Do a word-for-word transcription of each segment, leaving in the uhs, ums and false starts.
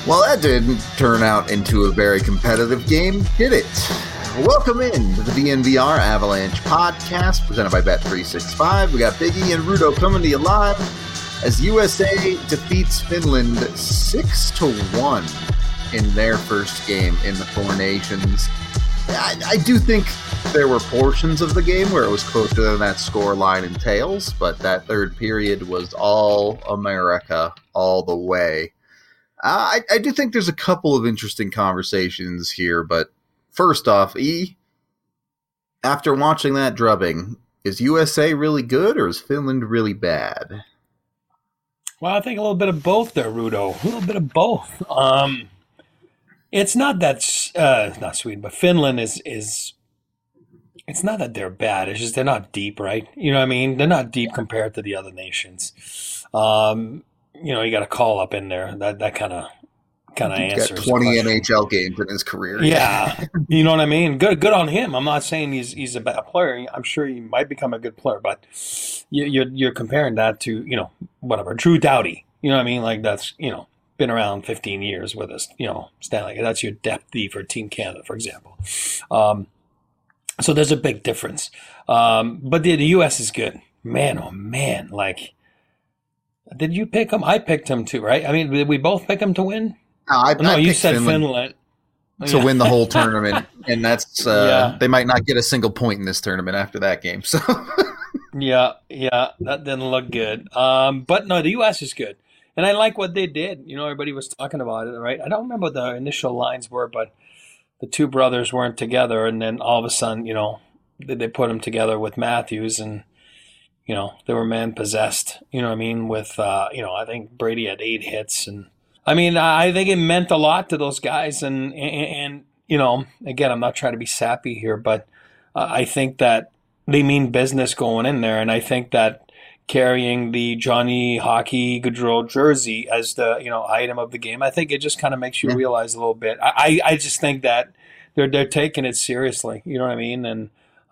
Well, that didn't turn out into a very competitive game, did it? Welcome in to the D N V R Avalanche podcast presented by Bet three sixty-five. We got Big E and Rudo coming to you live as U S A defeats Finland six to one in their first game in the Four Nations. I, I do think there were portions of the game where it was closer than that score line entails, but that third period was all America all the way. Uh, I, I do think there's a couple of interesting conversations here, but first off, E, after watching that drubbing, is U S A really good or is Finland really bad? Well, I think a little bit of both there, Rudo. A little bit of both. Um, it's not that uh, not Sweden, but Finland is is. It's not that they're bad. It's just they're not deep, right? You know what I mean? They're not deep compared to the other nations. Um, you know, you got a call up in there. That that kind of kind of answers. Got twenty N H L games in his career. Yeah, you know what I mean. Good, good on him. I'm not saying he's he's a bad player. I'm sure he might become a good player, but you, you're you're comparing that to you know whatever Drew Doughty. You know what I mean? Like that's you know been around fifteen years with us. You know, Stanley. That's your depth D for Team Canada, for example. Um, so there's a big difference. Um, but the, the U S is good. Man, oh man, like. Did you pick him? I picked him too, right? I mean, did we both pick him to win? No, I, no I you said Finland, Finland. to win the whole tournament, and that's uh, yeah. They might not get a single point in this tournament after that game. So, yeah, yeah, that didn't look good. Um, but no, the U S is good, and I like what they did. You know, everybody was talking about it, right? I don't remember what the initial lines were, but the two brothers weren't together, and then all of a sudden, you know, they, they put them together with Matthews and. You know, they were man-possessed, you know what I mean, with, uh, you know, I think Brady had eight hits. And I mean, I think it meant a lot to those guys. And, and, and you know, again, I'm not trying to be sappy here, but uh, I think that they mean business going in there. And I think that carrying the Johnny Hockey Gaudreau jersey as the, you know, item of the game, I think it just kind of makes you yeah. realize a little bit. I, I just think that they're they're taking it seriously, you know what I mean? And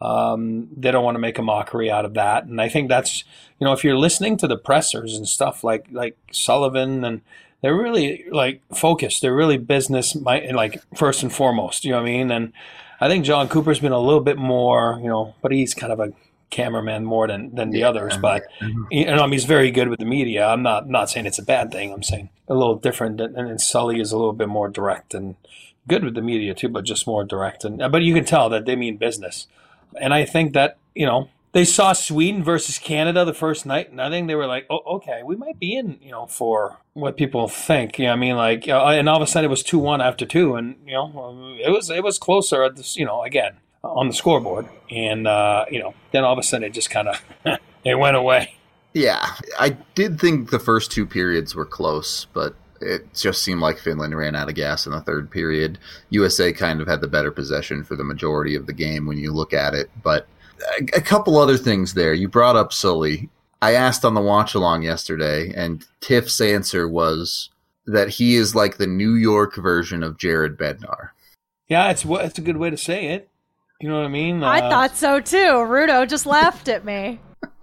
Um, they don't want to make a mockery out of that. And I think that's, you know, if you're listening to the pressers and stuff like, like Sullivan, and they're really like focused, they're really business, like first and foremost, you know what I mean? And I think John Cooper's been a little bit more, you know, but he's kind of a cameraman more than, than the yeah. others, but you know, I mean, he's very good with the media. I'm not, not saying it's a bad thing. I'm saying a little different. And then Sully is a little bit more direct and good with the media too, but just more direct. And, but you can tell that they mean business. And I think that, you know, they saw Sweden versus Canada the first night, and I think they were like, oh, okay, we might be in, you know, for what people think. You know what I mean? Like, uh, and all of a sudden it was two one after two, and, you know, it was it was closer at this, you know, again, on the scoreboard. And, uh, you know, then all of a sudden it just kind of, it went away. Yeah, I did think the first two periods were close, but it just seemed like Finland ran out of gas in the third period. U S A kind of had the better possession for the majority of the game when you look at it. But a, a couple other things there. You brought up Sully. I asked on the watch-along yesterday, and Tiff's answer was that he is like the New York version of Jared Bednar. Yeah, it's, it's a good way to say it. You know what I mean? I uh, thought so, too. Rudo just laughed at me.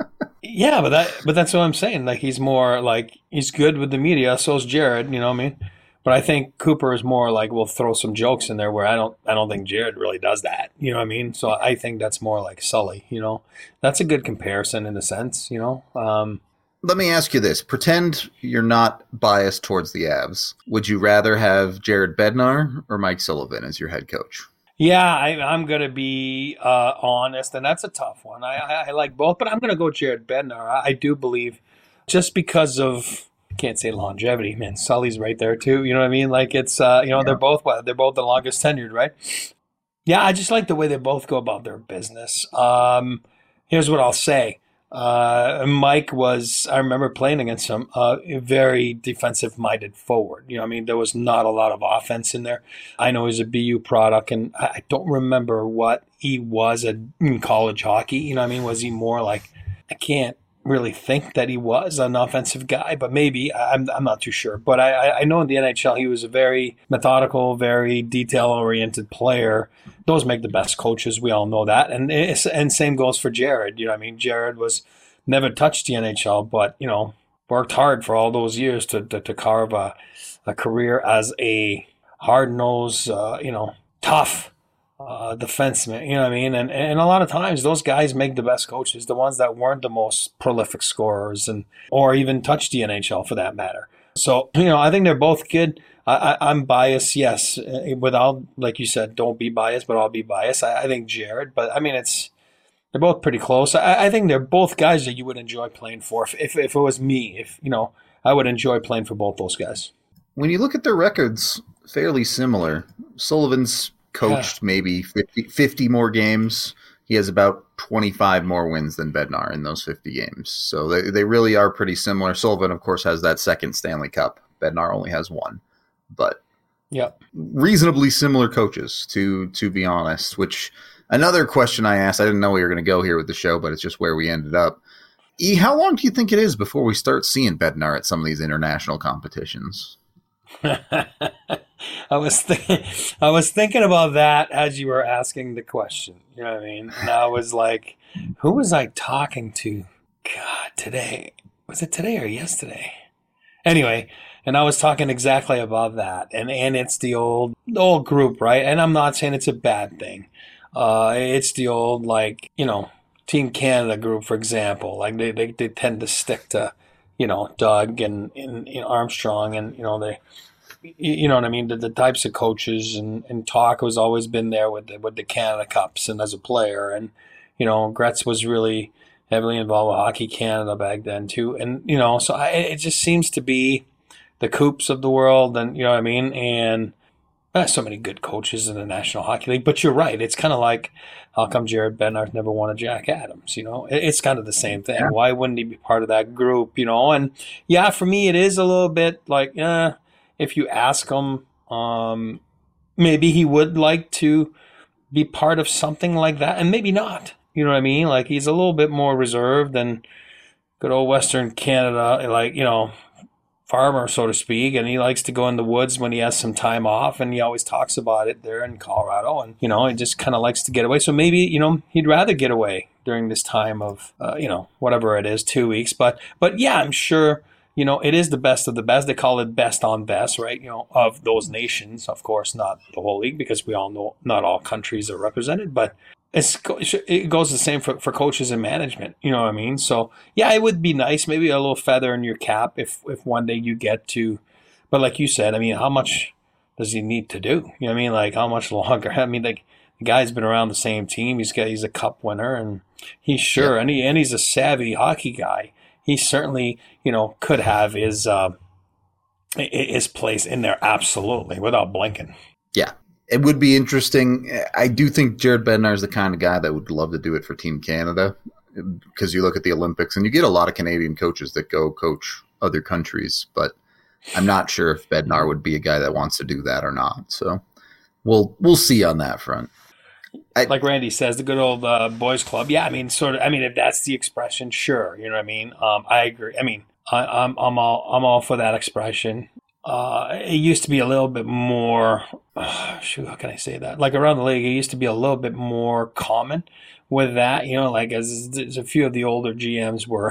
Yeah, but that but that's what I'm saying. Like he's more like he's good with the media. So is Jared. You know what I mean? But I think Cooper is more like we'll throw some jokes in there where I don't I don't think Jared really does that. You know what I mean? So I think that's more like Sully. You know, that's a good comparison in a sense. You know. Um, Let me ask you this: pretend you're not biased towards the Avs. Would you rather have Jared Bednar or Mike Sullivan as your head coach? Yeah, I, I'm going to be uh, honest, and that's a tough one. I, I, I like both, but I'm going to go Jared Bednar. I, I do believe just because of, I can't say longevity, man, Sully's right there too. You know what I mean? Like it's, uh, you know, yeah. they're both, what, they're both the longest tenured, right? Yeah, I just like the way they both go about their business. Um, here's what I'll say. Uh, Mike was, I remember playing against him, uh, a very defensive-minded forward. You know, I mean, there was not a lot of offense in there. I know he's a B U product, and I don't remember what he was at, in college hockey. You know what I mean? Was he more like, I can't really think that he was an offensive guy, but maybe. I'm I'm not too sure. But I, I know in the N H L, he was a very methodical, very detail-oriented player. Those make the best coaches. We all know that. And it's, and same goes for Jared. You know what I mean? Jared was never touched the N H L, but, you know, worked hard for all those years to to, to carve a, a career as a hard-nosed, uh, you know, tough uh, defenseman. You know what I mean? And and a lot of times those guys make the best coaches, the ones that weren't the most prolific scorers, and or even touched the N H L for that matter. So you know, I think they're both good. I, I, I'm biased, yes. Without, like you said, don't be biased, but I'll be biased. I, I think Jared, but I mean, it's they're both pretty close. I, I think they're both guys that you would enjoy playing for. If, if if it was me, if you know, I would enjoy playing for both those guys. When you look at their records, fairly similar. Sullivan's coached yeah. maybe fifty, fifty more games. He has about twenty-five more wins than Bednar in those fifty games. So they, they really are pretty similar. Sullivan, of course, has that second Stanley Cup. Bednar only has one. But yep. reasonably similar coaches, to to be honest, which another question I asked, I didn't know we were going to go here with the show, but it's just where we ended up. E, how long do you think it is before we start seeing Bednar at some of these international competitions? I was th- I was thinking about that as you were asking the question. You know what I mean? And I was like, who was I talking to? God, today. Was it today or yesterday? Anyway, and I was talking exactly about that. And and it's the old the old group, right? And I'm not saying it's a bad thing. Uh, it's the old, like, you know, Team Canada group, for example. Like they, they, they tend to stick to, you know, Doug and, and, and Armstrong, and, you know, they, you know what I mean? The, the types of coaches, and, and Talk has always been there with the, with the Canada Cups and as a player. And, you know, Gretz was really heavily involved with Hockey Canada back then too. And, you know, so I, it just seems to be the Coops of the world, and, you know what I mean? And uh, so many good coaches in the National Hockey League. But you're right. It's kind of like, how come Jared Bednar's never won a Jack Adams? You know, it, it's kind of the same thing. Yeah. Why wouldn't he be part of that group? You know, and yeah, for me, it is a little bit like, uh, if you ask him, um, maybe he would like to be part of something like that, and maybe not. You know what I mean? Like, he's a little bit more reserved than good old Western Canada, like, you know, farmer, so to speak, and he likes to go in the woods when he has some time off, and he always talks about it there in Colorado, and, you know, he just kind of likes to get away. So maybe, you know, he'd rather get away during this time of, uh, you know, whatever it is, two weeks. But, but yeah, I'm sure, you know, it is the best of the best. They call it best on best, right? You know, of those nations, of course, not the whole league, because we all know not all countries are represented, but It's, it goes the same for, for coaches and management. You know what I mean? So, yeah, it would be nice. Maybe a little feather in your cap if, if one day you get to. But like you said, I mean, how much does he need to do? You know what I mean? Like, how much longer? I mean, like, the guy's been around the same team. He's got he's a cup winner, and he's sure. Yeah. And, he, and he's a savvy hockey guy. He certainly, you know, could have his, uh, his place in there, absolutely, without blinking. Yeah. It would be interesting. I do think Jared Bednar is the kind of guy that would love to do it for Team Canada, because you look at the Olympics and you get a lot of Canadian coaches that go coach other countries, but I'm not sure if Bednar would be a guy that wants to do that or not. So we'll we'll see on that front. I, like Randy says, the good old uh, boys club. Yeah, I mean, sort of. I mean, if that's the expression, sure. You know what I mean? Um, I agree. I mean, I, I'm I'm all I'm all for that expression. Uh, it used to be a little bit more, uh, shoot, how can I say that? Like around the league, it used to be a little bit more common with that, you know, like as, as a few of the older G Ms were,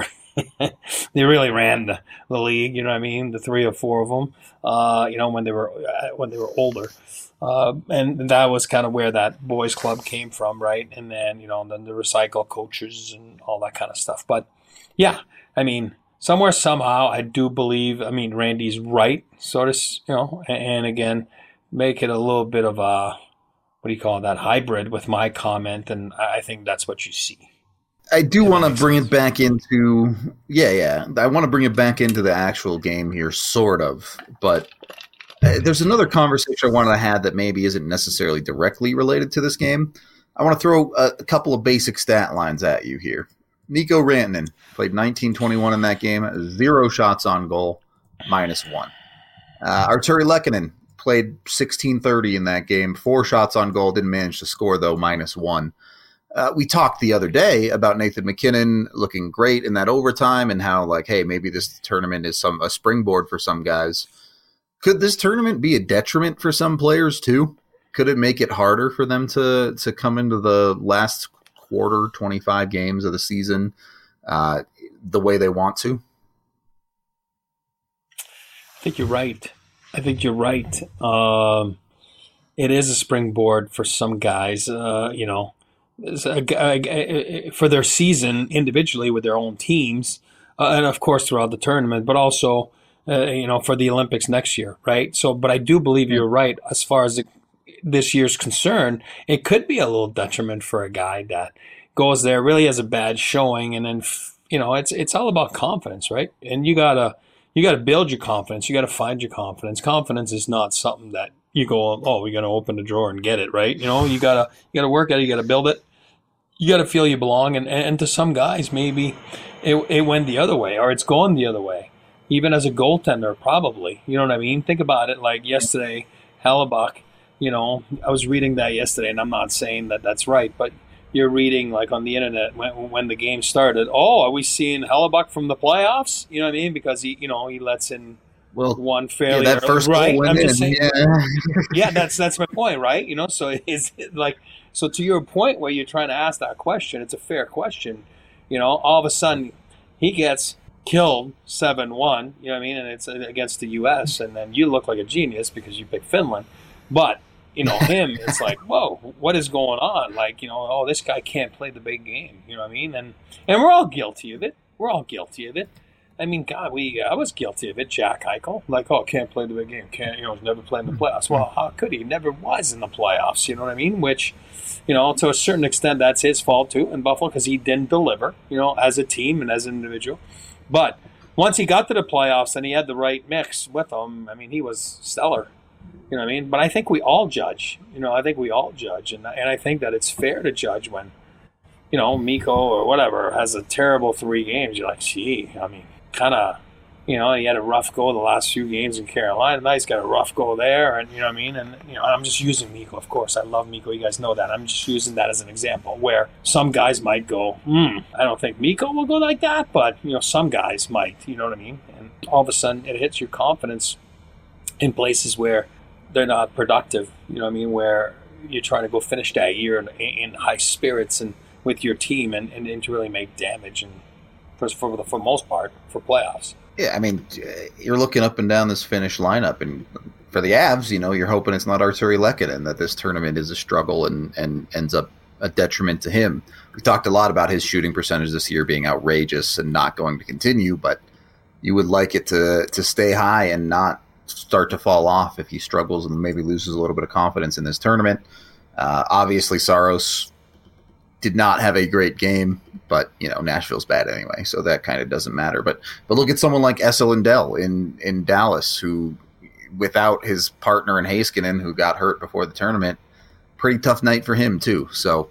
they really ran the, the league, you know what I mean? The three or four of them, uh, you know, when they were, uh, when they were older. Uh, and that was kind of where that boys club came from, right? And then, you know, then the recycle coaches and all that kind of stuff. But yeah, I mean, somewhere, somehow, I do believe, I mean, Randy's right, sort of, you know, and, and again, make it a little bit of a, what do you call it, that hybrid with my comment, and I think that's what you see. I do want to bring sense. it back into, yeah, yeah, I want to bring it back into the actual game here, sort of, but uh, there's another conversation I wanted to have that maybe isn't necessarily directly related to this game. I want to throw a, a couple of basic stat lines at you here. Mikko Rantanen played nineteen twenty-one in that game, zero shots on goal, minus one. Uh, Arturi Lehkonen played sixteen thirty in that game, four shots on goal, didn't manage to score, though, minus one. Uh, we talked the other day about Nathan MacKinnon looking great in that overtime and how, like, hey, maybe this tournament is some a springboard for some guys. Could this tournament be a detriment for some players, too? Could it make it harder for them to, to come into the last quarter, twenty-five games of the season, uh, the way they want to? I think you're right. I think you're right. Um, it is a springboard for some guys, uh, you know, for their season individually with their own teams, uh, and of course throughout the tournament, but also, uh, you know, for the Olympics next year, right? So, but I do believe you're right as far as the, this year's concerned. It could be a little detriment for a guy that goes there, really has a bad showing, and then, you know, it's it's all about confidence, right? And you gotta you gotta build your confidence. You gotta find your confidence. Confidence is not something that you go, oh, we're gonna open the drawer and get it, right? You know, you gotta you gotta work at it. You gotta build it. You gotta feel you belong. And and to some guys, maybe it it went the other way, or it's gone the other way. Even as a goaltender, probably. You know what I mean? Think about it. Like yesterday, Hellebuyck. You know, I was reading that yesterday, and I'm not saying that that's right, but you're reading like on the internet when when the game started. Oh, are we seeing Hellebuyck from the playoffs? You know what I mean? Because he, you know, he lets in well one fairly yeah, that early, first right. goal went I'm in. just saying, yeah. yeah, that's that's my point, right? You know, so it's like so to your point where you're trying to ask that question, it's a fair question. You know, all of a sudden he gets killed seven one. You know what I mean? And it's against the U S, and then you look like a genius because you picked Finland, but. You know, him, it's like, whoa, what is going on? Like, you know, oh, this guy can't play the big game. You know what I mean? And and we're all guilty of it. We're all guilty of it. I mean, God, we I was guilty of it. Jack Eichel, like, oh, can't play the big game. Can't, you know, never played in the playoffs. Well, how could he? He never was in the playoffs. You know what I mean? Which, you know, to a certain extent, that's his fault too in Buffalo because he didn't deliver. You know, as a team and as an individual. But once he got to the playoffs and he had the right mix with him, I mean, he was stellar. You know what I mean? But I think we all judge. You know, I think we all judge. And, and I think that it's fair to judge when, you know, Mikko or whatever has a terrible three games. You're like, gee, I mean, kind of, you know, he had a rough go the last few games in Carolina. Now he's got a rough go there. And, you know what I mean? And, you know, I'm just using Mikko, of course. I love Mikko. You guys know that. I'm just using that as an example where some guys might go, hmm, I don't think Mikko will go like that. But, you know, some guys might. You know what I mean? And all of a sudden it hits your confidence in places where they're not productive, you know what I mean, where you're trying to go finish that year in, in high spirits and with your team and, and, and to really make damage and for, for the for most part for playoffs. Yeah, I mean, you're looking up and down this Finnish lineup, and for the Avs, you know, you're hoping it's not Arturi Lehkonen, that this tournament is a struggle and, and ends up a detriment to him. We talked a lot about his shooting percentage this year being outrageous and not going to continue, but you would like it to to stay high and not start to fall off if he struggles and maybe loses a little bit of confidence in this tournament. Uh, obviously, Saros did not have a great game, but you know Nashville's bad anyway, so that kind of doesn't matter. But but look at someone like Esa Lindell in in Dallas, who without his partner in Heiskanen, who got hurt before the tournament, pretty tough night for him too. So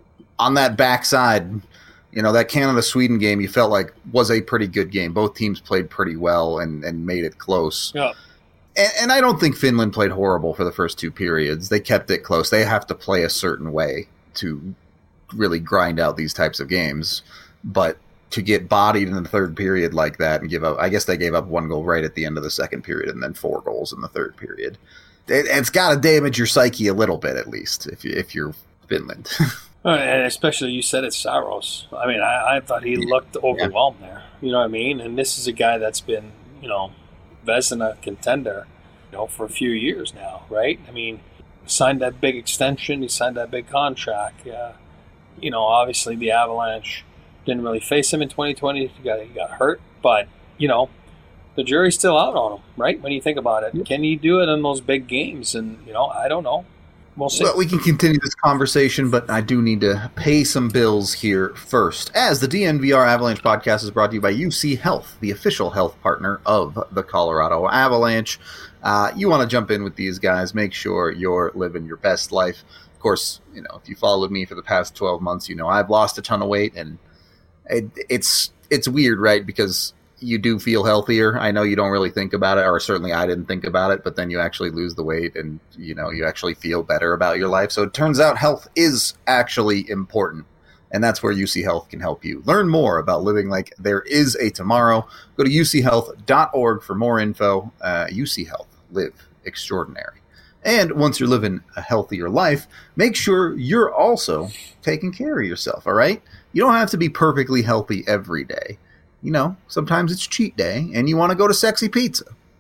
on that backside, you know, that Canada-Sweden game you felt like was a pretty good game. Both teams played pretty well and, and made it close. Yeah. And, and I don't think Finland played horrible for the first two periods. They kept it close. They have to play a certain way to really grind out these types of games. But to get bodied in the third period like that and give up, I guess they gave up one goal right at the end of the second period and then four goals in the third period. It, it's got to damage your psyche a little bit, at least, if, you, if you're Finland. And especially you said it's Saros. I mean, I, I thought he looked overwhelmed yeah. there. You know what I mean? And this is a guy that's been, you know, Vezina contender, you know, for a few years now, right? I mean, signed that big extension. He signed that big contract. Uh, you know, obviously the Avalanche didn't really face him in twenty twenty. He got, he got hurt. But, you know, the jury's still out on him, right? When you think about it. Yep. Can he do it in those big games? And, you know, I don't know. We'll see. Well, we can continue this conversation, but I do need to pay some bills here first. As the D N V R Avalanche podcast is brought to you by U C Health, the official health partner of the Colorado Avalanche. Uh, you want to jump in with these guys, make sure you're living your best life. Of course, you know, if you followed me for the past twelve months, you know I've lost a ton of weight, and it, it's it's weird, right? Because you do feel healthier. I know you don't really think about it, or certainly I didn't think about it, but then you actually lose the weight and, you know, you actually feel better about your life. So it turns out health is actually important, and that's where U C Health can help you. Learn more about living like there is a tomorrow. Go to u c health dot org for more info. Uh, U C Health, live extraordinary. And once you're living a healthier life, make sure you're also taking care of yourself, all right? You don't have to be perfectly healthy every day. You know, sometimes it's cheat day and you want to go to Sexy Pizza.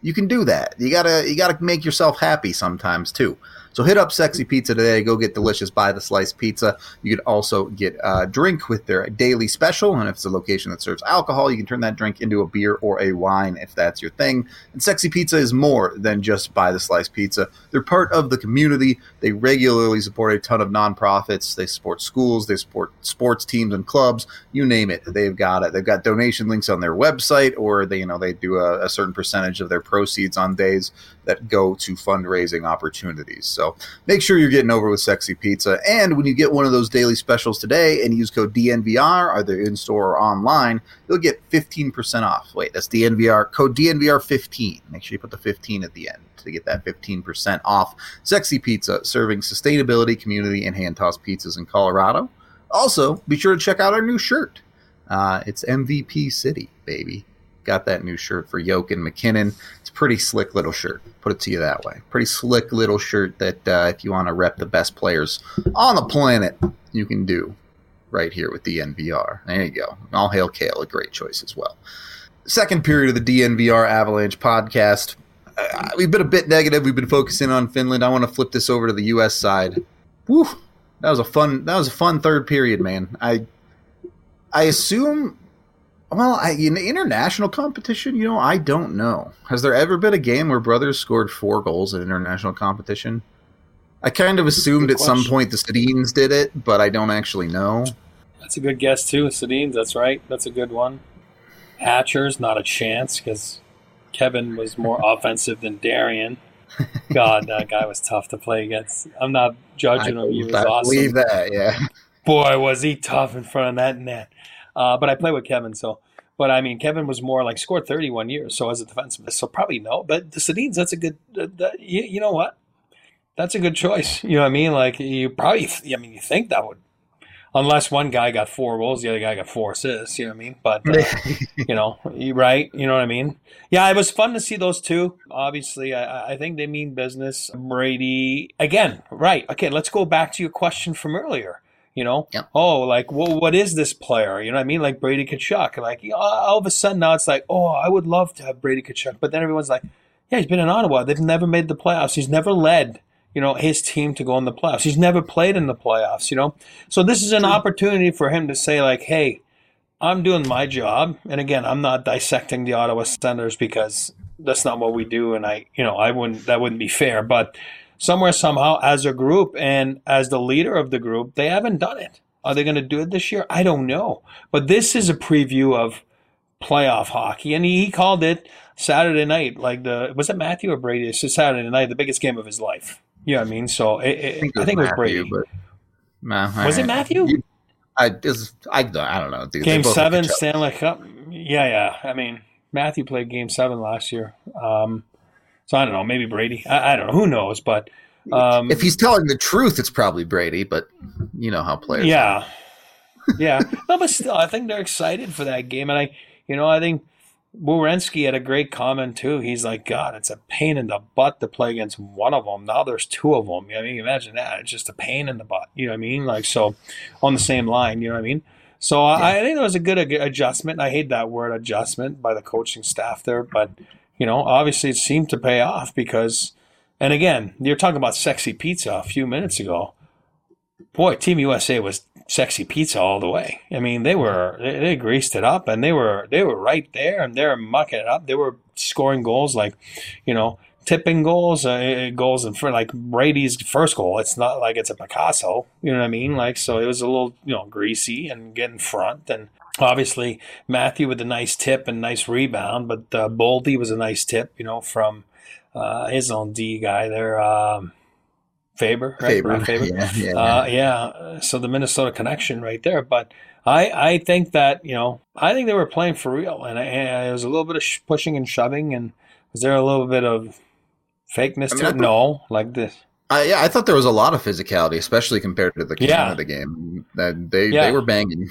you can do that. You gotta you gotta make yourself happy sometimes too. So hit up Sexy Pizza today. Go get delicious By the Slice pizza. You can also get a drink with their daily special. And if it's a location that serves alcohol, you can turn that drink into a beer or a wine if that's your thing. And Sexy Pizza is more than just By the Slice pizza. They're part of the community. They regularly support a ton of nonprofits. They support schools. They support sports teams and clubs. You name it, they've got it. They've got donation links on their website, or they, you know, they do a, a certain percentage of their proceeds on days that go to fundraising opportunities. So make sure you're getting over with Sexy Pizza. And when you get one of those daily specials today and use code D N V R, either in-store or online, you'll get fifteen percent off. Wait, that's D N V R, code D N V R fifteen. Make sure you put the fifteen at the end to get that fifteen percent off. Sexy Pizza, serving sustainability, community, and hand-tossed pizzas in Colorado. Also, be sure to check out our new shirt. Uh, it's M V P City, baby. Got that new shirt for Yoke and McKinnon. It's a pretty slick little shirt. Put it to you that way. Pretty slick little shirt that uh, if you want to rep the best players on the planet, you can do right here with D N V R. There you go. All hail Kale, a great choice as well. Second period of the D N V R Avalanche podcast. Uh, we've been a bit negative. We've been focusing on Finland. I want to flip this over to the U S side. Woo! That was a fun. That was a fun third period, man. I, I assume. Well, I, in international competition, you know, I don't know. Has there ever been a game where brothers scored four goals in international competition? I kind of assumed at some point the Sedins did it, but I don't actually know. That's a good guess, too. Sedins, that's right. That's a good one. Hatcher's, not a chance, because Kevin was more offensive than Darian. God, that guy was tough to play against. I'm not judging him. He was I awesome. believe that, yeah. Boy, was he tough in front of that net. Uh, but I play with Kevin, so. But, I mean, Kevin was more like scored thirty-one years, so as a defenseman. So probably no. But the Sedins, that's a good uh, – that, you, you know what? That's a good choice. You know what I mean? Like, you probably – I mean, you think that would – unless one guy got four goals, the other guy got four assists. You know what I mean? But, uh, you know, you right? You know what I mean? Yeah, it was fun to see those two. Obviously, I, I think they mean business. Brady – again, right. Okay, let's go back to your question from earlier. You know, yep. Oh, like, well, what is this player? You know what I mean? Like Brady Tkachuk. Like, you know, all of a sudden now it's like, oh, I would love to have Brady Tkachuk. But then everyone's like, yeah, he's been in Ottawa. They've never made the playoffs. He's never led, you know, his team to go in the playoffs. He's never played in the playoffs, you know. So this is an opportunity for him to say, like, hey, I'm doing my job. And again, I'm not dissecting the Ottawa Senators because that's not what we do. And I, you know, I wouldn't, that wouldn't be fair. But somewhere, somehow, as a group and as the leader of the group, they haven't done it. Are they going to do it this year? I don't know. But this is a preview of playoff hockey. And he, he called it Saturday night. Like the was it Matthew or Brady? It's just Saturday night, the biggest game of his life. You know what I mean? So it, it, I think it was, I think Matthew, it was Brady. But, nah, was right. it Matthew? You, I, is, I, I don't know. Dude. Game seven, Stanley Cup. Yeah, yeah. I mean, Matthew played game seven last year. Um, so I don't know. Maybe Brady. I, I don't know. Who knows? But Um, if he's telling the truth, it's probably Brady, but you know how players yeah. are. Yeah. No, but still, I think they're excited for that game. And I, you know, I think Werenski had a great comment too. He's like, God, it's a pain in the butt to play against one of them. Now there's two of them. I mean, imagine that. It's just a pain in the butt. You know what I mean? Like, so on the same line, you know what I mean? So yeah. I, I think it was a good adjustment. I hate that word adjustment by the coaching staff there, but, you know, obviously it seemed to pay off because, and again, you're talking about sexy pizza a few minutes ago. Boy, Team U S A was sexy pizza all the way. I mean, they were they, they greased it up, and they were they were right there, and they were mucking it up. They were scoring goals like, you know, tipping goals, uh, goals in front, like Brady's first goal. It's not like it's a Picasso, you know what I mean? Like, so it was a little, you know, greasy and get in front, and obviously Matthew with a nice tip and nice rebound, but uh, Boldy was a nice tip, you know, from. Uh, his own D guy there, um, Faber, right? Faber, Faber. Yeah, yeah, uh, yeah. So the Minnesota connection right there. But I, I think that, you know, I think they were playing for real, and it was a little bit of sh- pushing and shoving. And was there a little bit of fakeness I mean, to it? Thought, no, like this. Uh, yeah, I thought there was a lot of physicality, especially compared to the yeah. Canada game. That they yeah. they were banging.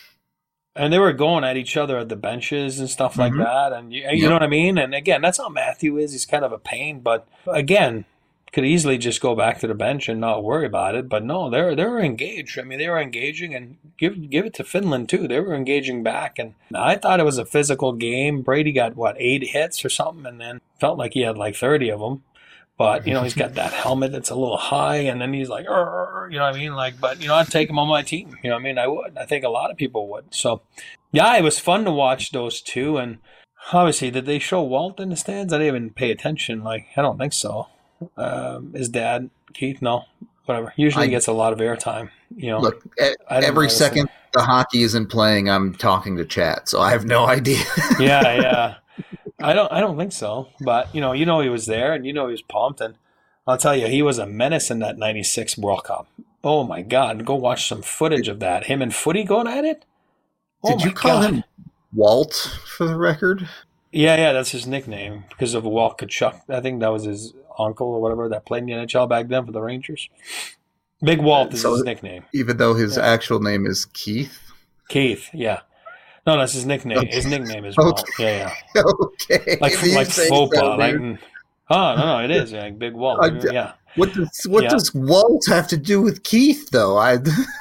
And they were going at each other at the benches and stuff like mm-hmm. that. And you, you yep. know what I mean? And again, that's how Matthew is. He's kind of a pain. But again, could easily just go back to the bench and not worry about it. But no, they're they're engaged. I mean, they were engaging, and give give it to Finland too. They were engaging back, and I thought it was a physical game. Brady got what eight hits or something, and then felt like he had like thirty of them. But you know, he's got that helmet that's a little high, and then he's like, "Arr," you know what I mean? Like, but you know, I'd take him on my team. You know what I mean? I would. I think a lot of people would. So, yeah, it was fun to watch those two, and obviously, did they show Walt in the stands? I didn't even pay attention. Like, I don't think so. Um, his dad, Keith, no, whatever. Usually I, gets a lot of airtime. You know, look, every second the hockey isn't playing, I'm talking to chat, so I have no idea. yeah, yeah. I don't, I don't think so. But you know, you know, he was there, and you know, he was pumped. And I'll tell you, he was a menace in that ninety-six World Cup. Oh my God, go watch some footage of that. Him and Footy going at it. Oh Did you call God. him Walt for the record? Yeah, yeah, that's his nickname because of Walt Kachuk. I think that was his uncle or whatever that played in the N H L back then for the Rangers. Big Walt is so his nickname. Even though his yeah. actual name is Keith? Keith, yeah. No, that's his nickname. Okay. His nickname is Walt. Okay. Yeah, yeah. Okay. Like like Fopa. Like, oh, no, no, it is. Like Big Walt. Uh, yeah. What does what yeah. does Walt have to do with Keith, though? I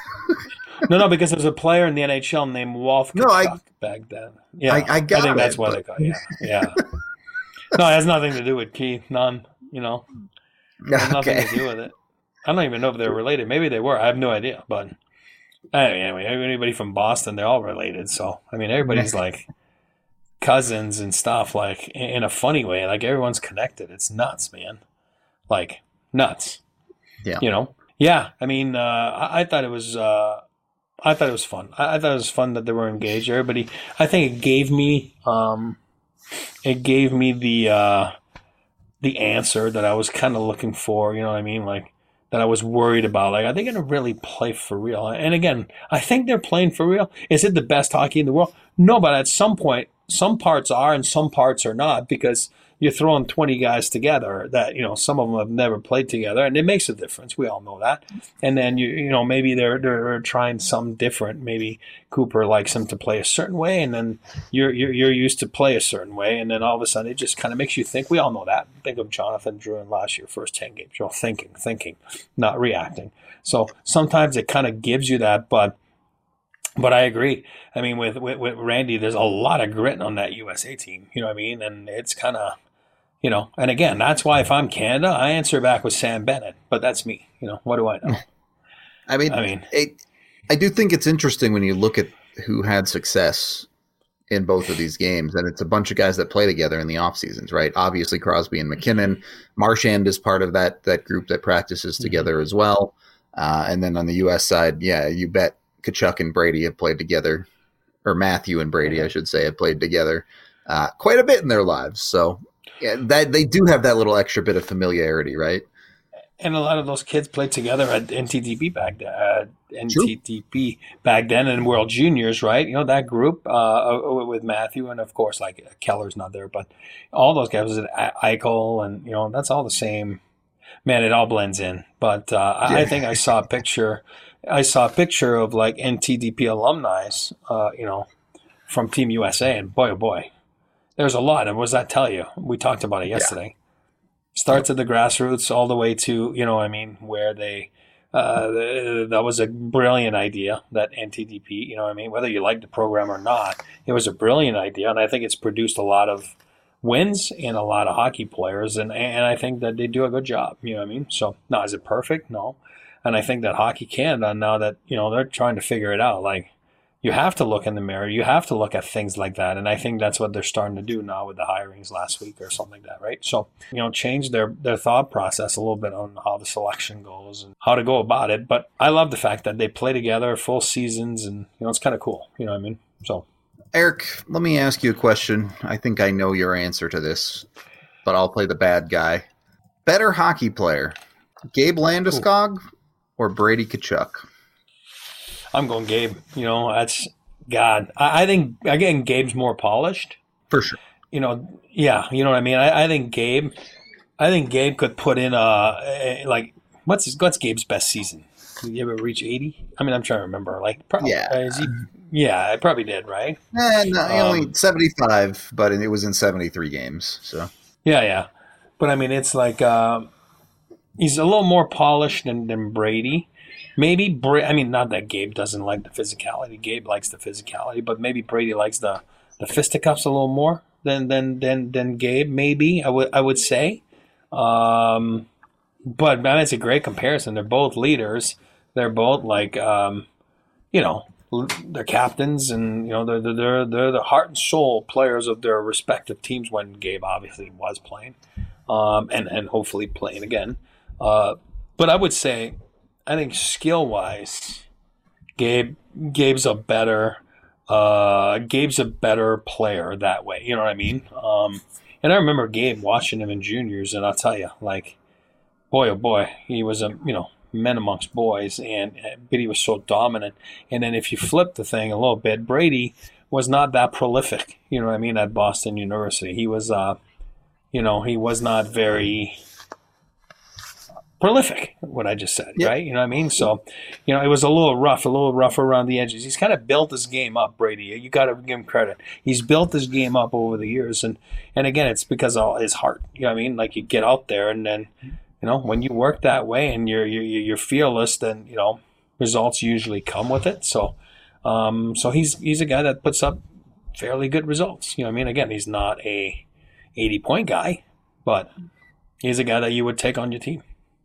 No, no, because there was a player in the N H L named Walt Kachuk no, I, back then. Yeah, I, I got I think it, that's why but... they got it. Yeah, yeah. No, it has nothing to do with Keith. None. You know, it has okay. nothing to do with it. I don't even know if they're related. Maybe they were. I have no idea. But anyway, anybody from Boston, they're all related. So I mean, everybody's like cousins and stuff. Like in a funny way. Like everyone's connected. It's nuts, man. Like nuts. Yeah. You know. Yeah. I mean, uh, I, I thought it was. Uh, I thought it was fun. I, I thought it was fun that they were engaged. Everybody. I think it gave me. Um, it gave me the. Uh, the answer that I was kind of looking for, you know what I mean? Like that I was worried about. Like, are they going to really play for real? And again, I think they're playing for real. Is it the best hockey in the world? No, but at some point, some parts are and some parts are not because you're throwing twenty guys together that, you know, some of them have never played together and it makes a difference. We all know that. And then, you you know, maybe they're they're trying some different. Maybe Cooper likes them to play a certain way and then you're, you're, you're used to play a certain way. And then all of a sudden it just kind of makes you think. We all know that. Think of Jonathan Drouin last year, first ten games, you know, thinking, thinking, not reacting. So sometimes it kind of gives you that, but But I agree. I mean, with, with, with Randy, there's a lot of grit on that U S A team. You know what I mean? And it's kind of, you know, and again, that's why if I'm Canada, I answer back with Sam Bennett. But that's me. You know, what do I know? I mean, I mean, it, I do think it's interesting when you look at who had success in both of these games. And it's a bunch of guys that play together in the off seasons, right? Obviously, Crosby and McKinnon. Marchand is part of that that group that practices together mm-hmm. as well. Uh, and then on the U S side, yeah, you bet. Kachuk and Brady have played together, or Matthew and Brady, I should say, have played together uh, quite a bit in their lives. So yeah, that they do have that little extra bit of familiarity, right? And a lot of those kids played together at N T D P back then, uh, N T D P back then, and World Juniors, right? You know that group uh, with Matthew, and of course, like Keller's not there, but all those guys was Eichel, and you know that's all the same. Man, it all blends in. But uh, yeah. I think I saw a picture. I saw a picture of like N T D P alumni, uh, you know, from Team U S A, and boy, oh boy, there's a lot. And what does that tell you? We talked about it yesterday. Yeah. Starts at the grassroots all the way to, you know what I mean, where they, uh, that was a brilliant idea, that N T D P, you know what I mean? Whether you like the program or not, it was a brilliant idea. And I think it's produced a lot of wins and a lot of hockey players. And, and I think that they do a good job, you know what I mean? So, now, is it perfect? No. And I think that Hockey Canada, now that, you know, they're trying to figure it out, like, you have to look in the mirror. You have to look at things like that. And I think that's what they're starting to do now with the hirings last week or something like that, right? So, you know, change their, their thought process a little bit on how the selection goes and how to go about it. But I love the fact that they play together full seasons and, you know, it's kind of cool. You know what I mean? So, Eric, let me ask you a question. I think I know your answer to this, but I'll play the bad guy. Better hockey player, Gabe Landeskog Ooh. or Brady Kachuk? I'm going Gabe. You know, that's God. I, I think again, Gabe's more polished for sure. You know, yeah, you know what I mean. I, I think Gabe. I think Gabe could put in a, a like what's his, what's Gabe's best season? Did he ever reach eighty? I mean, I'm trying to remember. Like, probably, yeah, uh, is he? Yeah, I probably did, right? Eh, no, um, only seventy-five, but it was in seventy-three games. So yeah, yeah. But I mean, it's like. Um, he's a little more polished than, than Brady. Maybe Bra- I mean, not that Gabe doesn't like the physicality. Gabe likes the physicality, but maybe Brady likes the, the fisticuffs a little more than than than than Gabe. Maybe I would I would say. Um, but man, it's a great comparison. They're both leaders. They're both like um, you know, they're captains, and you know they're they're they're the heart and soul players of their respective teams. When Gabe obviously was playing, um, and and hopefully playing again. Uh, but I would say, I think skill wise, Gabe Gabe's a better uh, Gabe's a better player that way. You know what I mean? Um, and I remember Gabe watching him in juniors, and I'll tell you, like, boy oh boy, he was a you know. men amongst boys, and but he was so dominant. And then if you flip the thing a little bit, Brady was not that prolific, you know what I mean, at Boston University. He was, uh, you know, he was not very prolific, what I just said, yep. Right? You know what I mean? So, you know, it was a little rough, a little rough around the edges. He's kind of built his game up, Brady. You got to give him credit. He's built his game up over the years. And, and again, it's because of his heart. You know what I mean? Like, you get out there, and then you know, when you work that way and you're you're, you're fearless, then you know results usually come with it. So, um, so he's he's a guy that puts up fairly good results. You know, what I mean, again, he's not a eighty point guy, but he's a guy that you would take on your team.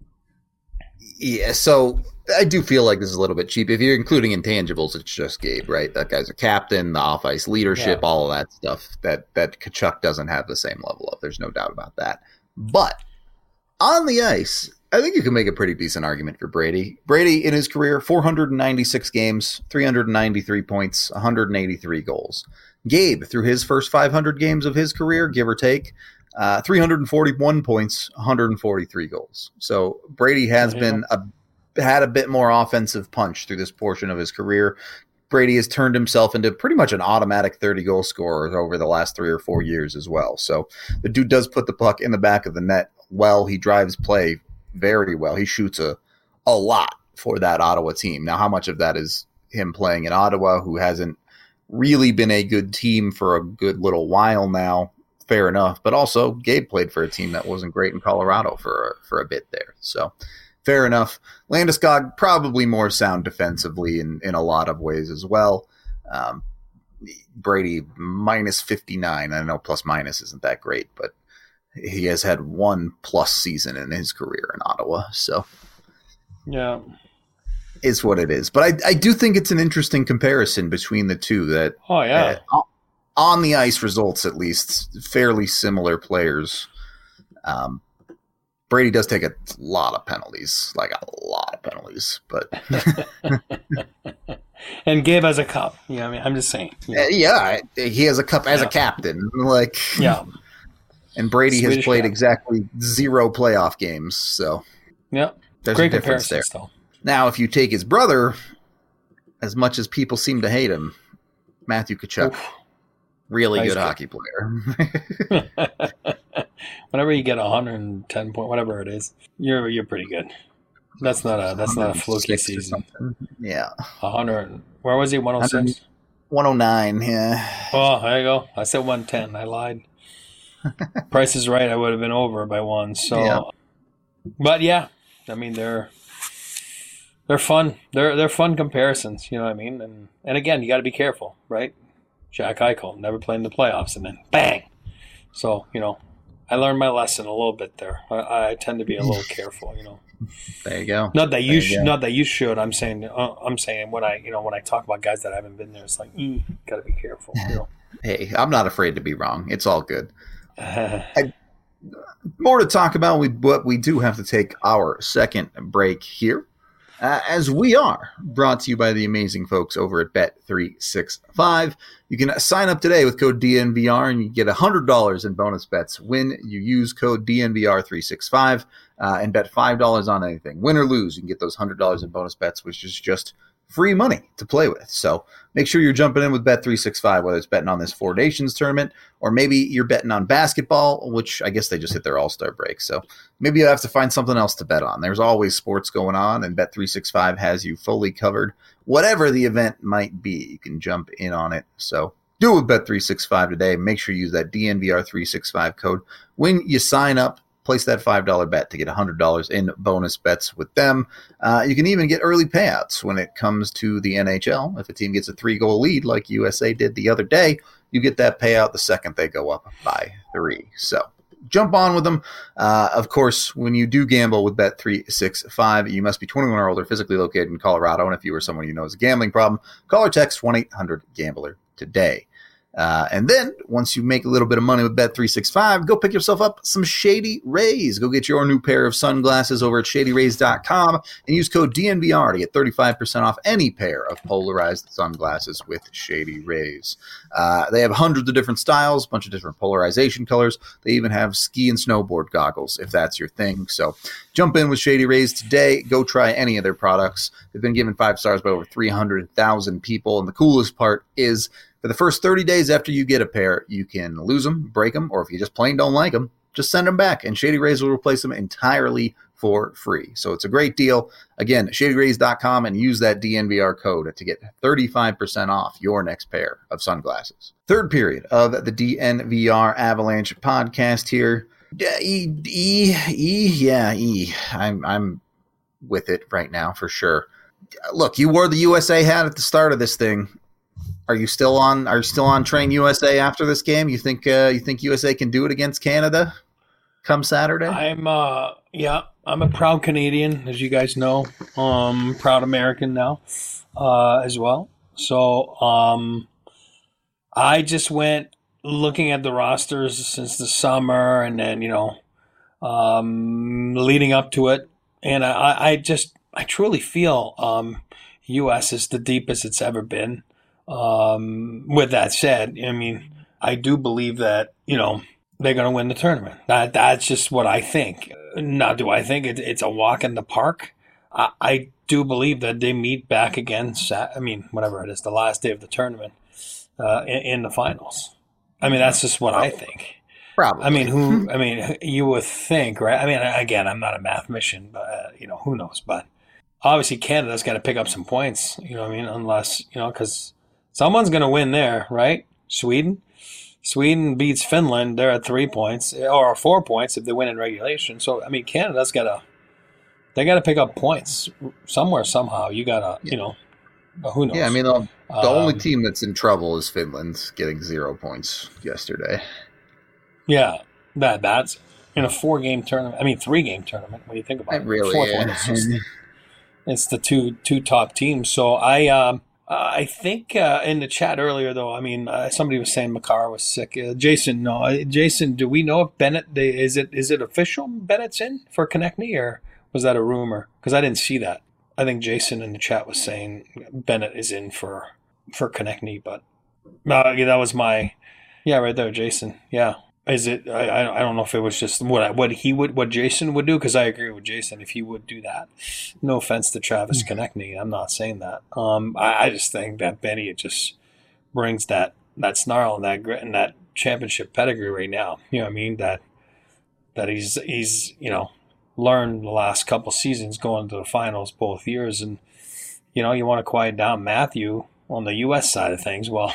Yeah, so I do feel like this is a little bit cheap. If you're including intangibles, it's just Gabe, right? That guy's a captain, the off ice leadership, yeah. All of that stuff that that Tkachuk doesn't have the same level of. There's no doubt about that, but on the ice, I think you can make a pretty decent argument for Brady. Brady, in his career, four hundred ninety-six games, three hundred ninety-three points, one hundred eighty-three goals. Gabe, through his first five hundred games of his career, give or take, uh, three hundred forty-one points, one hundred forty-three goals. So Brady has yeah. been a, had a bit more offensive punch through this portion of his career. Brady has turned himself into pretty much an automatic thirty-goal scorer over the last three or four years as well. So the dude does put the puck in the back of the net well. He drives play very well. He shoots a, a lot for that Ottawa team. Now, how much of that is him playing in Ottawa, who hasn't really been a good team for a good little while now? Fair enough. But also, Gabe played for a team that wasn't great in Colorado for a, for a bit there. So fair enough. Landeskog probably more sound defensively in, in a lot of ways as well. Um, Brady minus fifty-nine. I know plus minus isn't that great, but he has had one plus season in his career in Ottawa. So yeah, it's what it is. But I, I do think it's an interesting comparison between the two that, oh yeah, uh, on the ice results, at least fairly similar players. Um, Brady does take a lot of penalties, like a lot of penalties, but and Gabe has a cup. Yeah, I mean, I'm just saying. You know. uh, yeah, he has a cup as yeah. a captain. Like, yeah, and Brady Swedish has played guy. exactly zero playoff games. So, yeah, there's great a difference there. Still. Now, if you take his brother, as much as people seem to hate him, Matthew Tkachuk, Oof. really good, good hockey player. Whenever you get one hundred ten point, whatever it is, you're you're pretty good. That's not a that's not a fluky season. Yeah, one hundred. Where was he? one oh six. one oh nine. Yeah. Oh, there you go. I said one ten. I lied. Price is right. I would have been over by one. So, yeah. But yeah, I mean they're they're fun. They're they're fun comparisons. You know what I mean? And and again, you got to be careful, right? Jack Eichel never played in the playoffs, and then bang. So you know. I learned my lesson a little bit there. I, I tend to be a little careful, you know. There you go. Not that you, you sh- go. not that you should. I'm saying, uh, I'm saying when I, you know, when I talk about guys that haven't been there, it's like, mm, gotta be careful. You know? Hey, I'm not afraid to be wrong. It's all good. I, more to talk about, we but we do have to take our second break here. Uh, as we are brought to you by the amazing folks over at Bet three sixty-five. You can sign up today with code D N V R and you get one hundred dollars in bonus bets when you use code D N V R three sixty-five uh, and bet five dollars on anything. Win or lose, you can get those one hundred dollars in bonus bets, which is just free money to play with. So make sure you're jumping in with Bet three sixty-five, whether it's betting on this Four Nations tournament or maybe you're betting on basketball, which I guess they just hit their All-Star break. So maybe you have to find something else to bet on. There's always sports going on, and Bet three sixty-five has you fully covered. Whatever the event might be, you can jump in on it. So do it with Bet three sixty-five today. Make sure you use that D N V R three sixty-five code when you sign up. Place that five dollar bet to get one hundred dollars in bonus bets with them. Uh, you can even get early payouts when it comes to the N H L. If a team gets a three-goal lead like U S A did the other day, you get that payout the second they go up by three. So jump on with them. Uh, of course, when you do gamble with Bet three sixty-five, you must be twenty-one or older, physically located in Colorado. And if you or someone you know has a gambling problem, call or text one eight hundred gambler today. Uh, and then once you make a little bit of money with Bet three sixty-five, go pick yourself up some Shady Rays. Go get your new pair of sunglasses over at shady rays dot com and use code D N V R to get thirty-five percent off any pair of polarized sunglasses with Shady Rays. Uh, they have hundreds of different styles, a bunch of different polarization colors. They even have ski and snowboard goggles if that's your thing. So jump in with Shady Rays today. Go try any of their products. They've been given five stars by over three hundred thousand people. And the coolest part is, for the first thirty days after you get a pair, you can lose them, break them, or if you just plain don't like them, just send them back, and Shady Rays will replace them entirely for free. So it's a great deal. Again, shady rays dot com, and use that D N V R code to get thirty-five percent off your next pair of sunglasses. Third period of the D N V R Avalanche podcast here. E, E, E, yeah, E. I'm, I'm with it right now for sure. Look, you wore the U S A hat at the start of this thing. Are you still on? Are you still on Train U S A after this game? You think uh, you think U S A can do it against Canada come Saturday? I'm uh, yeah, I'm a proud Canadian, as you guys know. Um, proud American now, uh, as well. So um, I just went looking at the rosters since the summer, and then you know, um, leading up to it, and I, I just I truly feel um, U S is the deepest it's ever been. Um, with that said, I mean, I do believe that, you know, they're going to win the tournament. That, that's just what I think. Now, do I think it, it's a walk in the park? I, I do believe that they meet back again, Sat- I mean, whatever it is, the last day of the tournament uh, in, in the finals. I mean, that's just what I think. Probably. I mean, who, I mean, you would think, right? I mean, again, I'm not a mathematician, but, uh, you know, who knows? But obviously, Canada's got to pick up some points, you know what I mean? Unless, you know, because someone's going to win there, right? Sweden? Sweden beats Finland. They're at three points, or four points if they win in regulation. So, I mean, Canada's got to, they got to pick up points somewhere, somehow. You got to, you know, who knows? Yeah, I mean, the, the um, only team that's in trouble is Finland, getting zero points yesterday. Yeah, that that's in a four-game tournament. I mean, three-game tournament, when you think about it. It really Fourth is. one is just, it's the two two top teams. So, I... Um, Uh, I think uh, in the chat earlier, though, I mean, uh, somebody was saying Makar was sick. Uh, Jason, no, uh, Jason, do we know if Bennett they, is it is it official? Bennett's in for Konechny, or was that a rumor? Because I didn't see that. I think Jason in the chat was saying Bennett is in for for Konechny, but uh, yeah, that was my yeah, right there, Jason. Yeah. Is it? I I don't know if it was just what what he would what Jason would do, because I agree with Jason if he would do that. No offense to Travis Konechny, I'm not saying that. Um, I, I just think that Benny it just brings that that snarl and that grit and that championship pedigree right now. You know what I mean? That that he's he's you know learned the last couple seasons going to the finals both years, and you know you want to quiet down Matthew on the U S side of things. Well,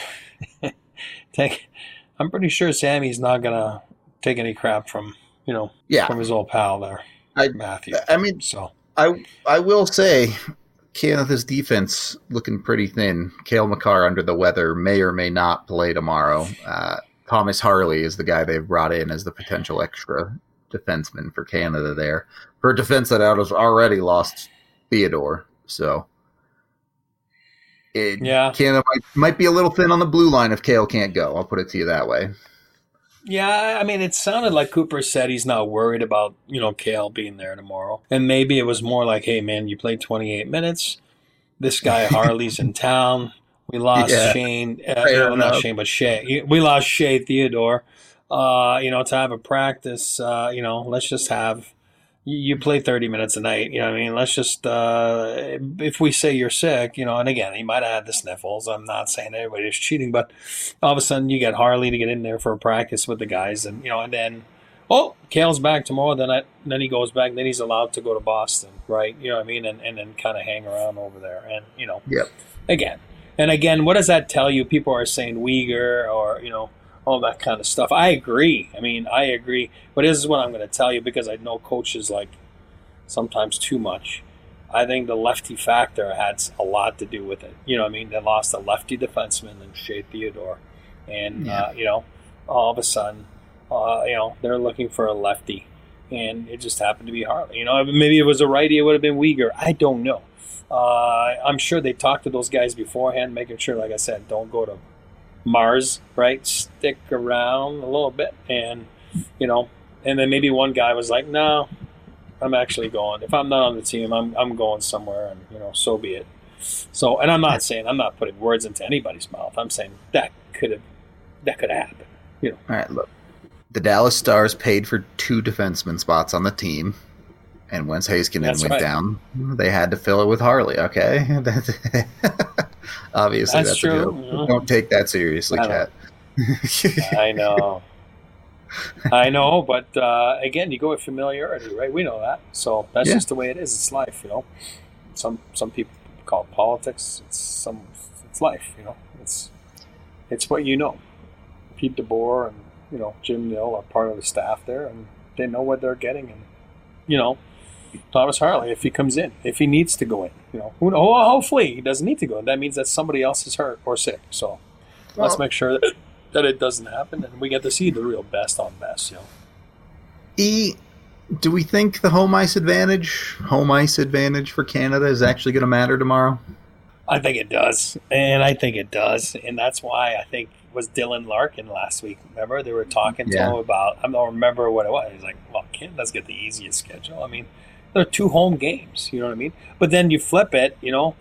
take. I'm pretty sure Sammy's not gonna take any crap from you know yeah. from his old pal there, I, Matthew. I mean, so I I will say, Canada's defense looking pretty thin. Cale Makar under the weather, may or may not play tomorrow. Uh, Thomas Harley is the guy they've brought in as the potential extra defenseman for Canada there, for a defense that has already lost Theodore. So. It, yeah, Canada might, might be a little thin on the blue line if Cale can't go. I'll put it to you that way. Yeah, I mean, it sounded like Cooper said he's not worried about, you know, Cale being there tomorrow. And maybe it was more like, hey, man, you played twenty-eight minutes. This guy Harley's in town. We lost yeah. Shane. Uh, you know, not Shane, but Shea. We lost Shea Theodore. Uh, you know, to have a practice, uh, you know, let's just have – you play thirty minutes a night, you know what I mean? Let's just, uh, if we say you're sick, you know, and again, he might have had the sniffles. I'm not saying everybody's cheating, but all of a sudden you get Harley to get in there for a practice with the guys, and, you know, and then, oh, Cale's back tomorrow, then I, then he goes back, then he's allowed to go to Boston, right? You know what I mean? And, and then kind of hang around over there. And, you know, yep. again, and again, what does that tell you? People are saying Uyghur or, you know, all that kind of stuff. I agree. I mean, I agree. But this is what I'm going to tell you because I know coaches like sometimes too much. I think the lefty factor had a lot to do with it. You know what I mean? They lost a lefty defenseman in Shea Theodore. And, yeah. uh, you know, all of a sudden, uh, you know, they're looking for a lefty. And it just happened to be Harley. You know, maybe it was a righty, it would have been Weegar. I don't know. Uh, I'm sure they talked to those guys beforehand, making sure, like I said, don't go to Mars, right? Stick around a little bit. And, you know, and then maybe one guy was like, no, I'm actually going. If I'm not on the team, I'm I'm going somewhere, and, you know, so be it. So, and I'm not saying, I'm not putting words into anybody's mouth. I'm saying that could have, that could have happened, you know. All right, look. The Dallas Stars paid for two defenseman spots on the team, and once Heiskanen That's went right. down, they had to fill it with Harley, okay? That's, obviously, That's that's, true. a joke. Yeah. Don't take that seriously, I Kat. I know. I know, but uh, again, you go with familiarity, right? We know that. So that's Yeah. just the way it is. It's life, you know. Some some people call it politics. It's some it's life, you know. It's it's what you know. Pete DeBoer and, you know, Jim Nill are part of the staff there, and they know what they're getting. And, you know, Thomas Harley, if he comes in, if he needs to go in, you know, who, oh, hopefully he doesn't need to go in. That means that somebody else is hurt or sick. So Well, let's make sure that, that it doesn't happen, and we get to see the real best on best, you know. E, do we think the home ice advantage, home ice advantage for Canada is actually going to matter tomorrow? I think it does, and I think it does, and that's why I think was Dylan Larkin last week. Remember, they were talking to Yeah. him about. I don't remember what it was. He's like, "Well, Canada's get the easiest schedule." I mean, there are two home games. You know what I mean? But then you flip it. You know,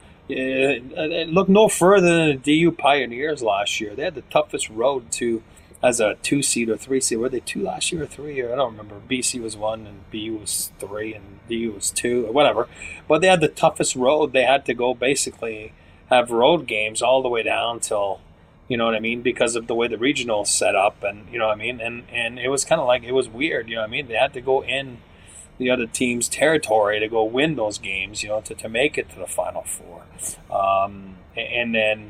uh, look no further than the D U Pioneers last year. They had the toughest road to as a two seed or three seed. Were they two last year or three? Or I don't remember. B C was one and B U was three and D U was two or whatever. But they had the toughest road. They had to go basically have road games all the way down till, you know what I mean, because of the way the regionals set up, and you know what I mean, and and it was kind of like, it was weird, you know what I mean. They had to go in the other team's territory to go win those games, you know, to, to make it to the Final Four, um, and then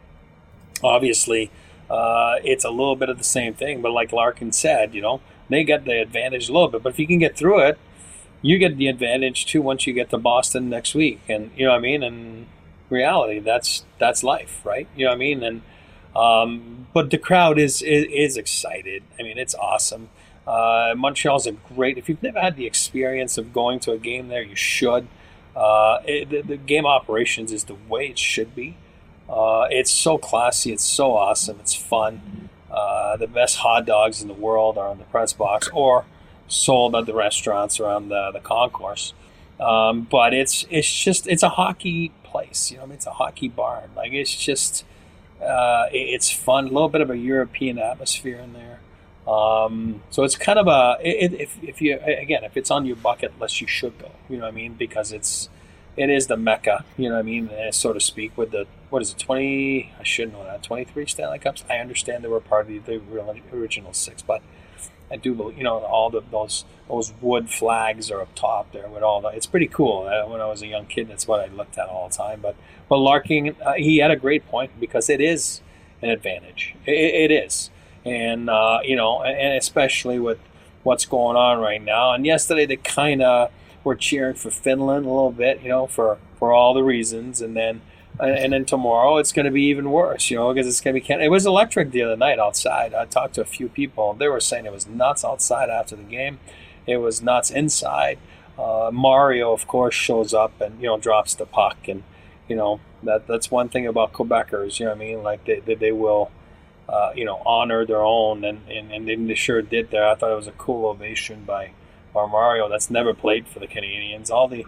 obviously uh, it's a little bit of the same thing. But like Larkin said, you know, they get the advantage a little bit, but if you can get through it, you get the advantage too once you get to Boston next week, and you know what I mean. And reality, that's that's life, right? You know what I mean. And um, but the crowd is, is is excited. I mean, it's awesome. Uh, Montreal's a great. If you've never had the experience of going to a game there, you should. Uh, it, the, the game operations is the way it should be. Uh, it's so classy. It's so awesome. It's fun. Uh, the best hot dogs in the world are in the press box or sold at the restaurants around the, the concourse. Um, but it's it's just it's a hockey place. You know, I mean, it's a hockey barn. Like, it's just uh, it, it's fun. A little bit of a European atmosphere in there. Um, so it's kind of a it, if if you again if it's on your bucket list, you should go. You know what I mean? Because it's it is the Mecca. You know what I mean, so to speak. With the what is it twenty? I should know that twenty-three Stanley Cups. I understand they were part of the, the original six, but I do believe, you know, all the those those wood flags are up top there with all the. It's pretty cool. Uh, when I was a young kid, that's what I looked at all the time. But but Larkin, uh, he had a great point, because it is an advantage. It, it is. And, uh, you know, and especially with what's going on right now. And yesterday they kind of were cheering for Finland a little bit, you know, for, for all the reasons. And then and then tomorrow it's going to be even worse, you know, because it's going to be Canada. It was electric the other night outside. I talked to a few people. They were saying it was nuts outside after the game. It was nuts inside. Uh, Mario, of course, shows up and, you know, drops the puck. And, you know, that that's one thing about Quebecers, you know what I mean? Like, they, they, they will... Uh, you know, honor their own, and, and, and they sure did there. I thought it was a cool ovation by, by Mario. That's never played for the Canadians. All the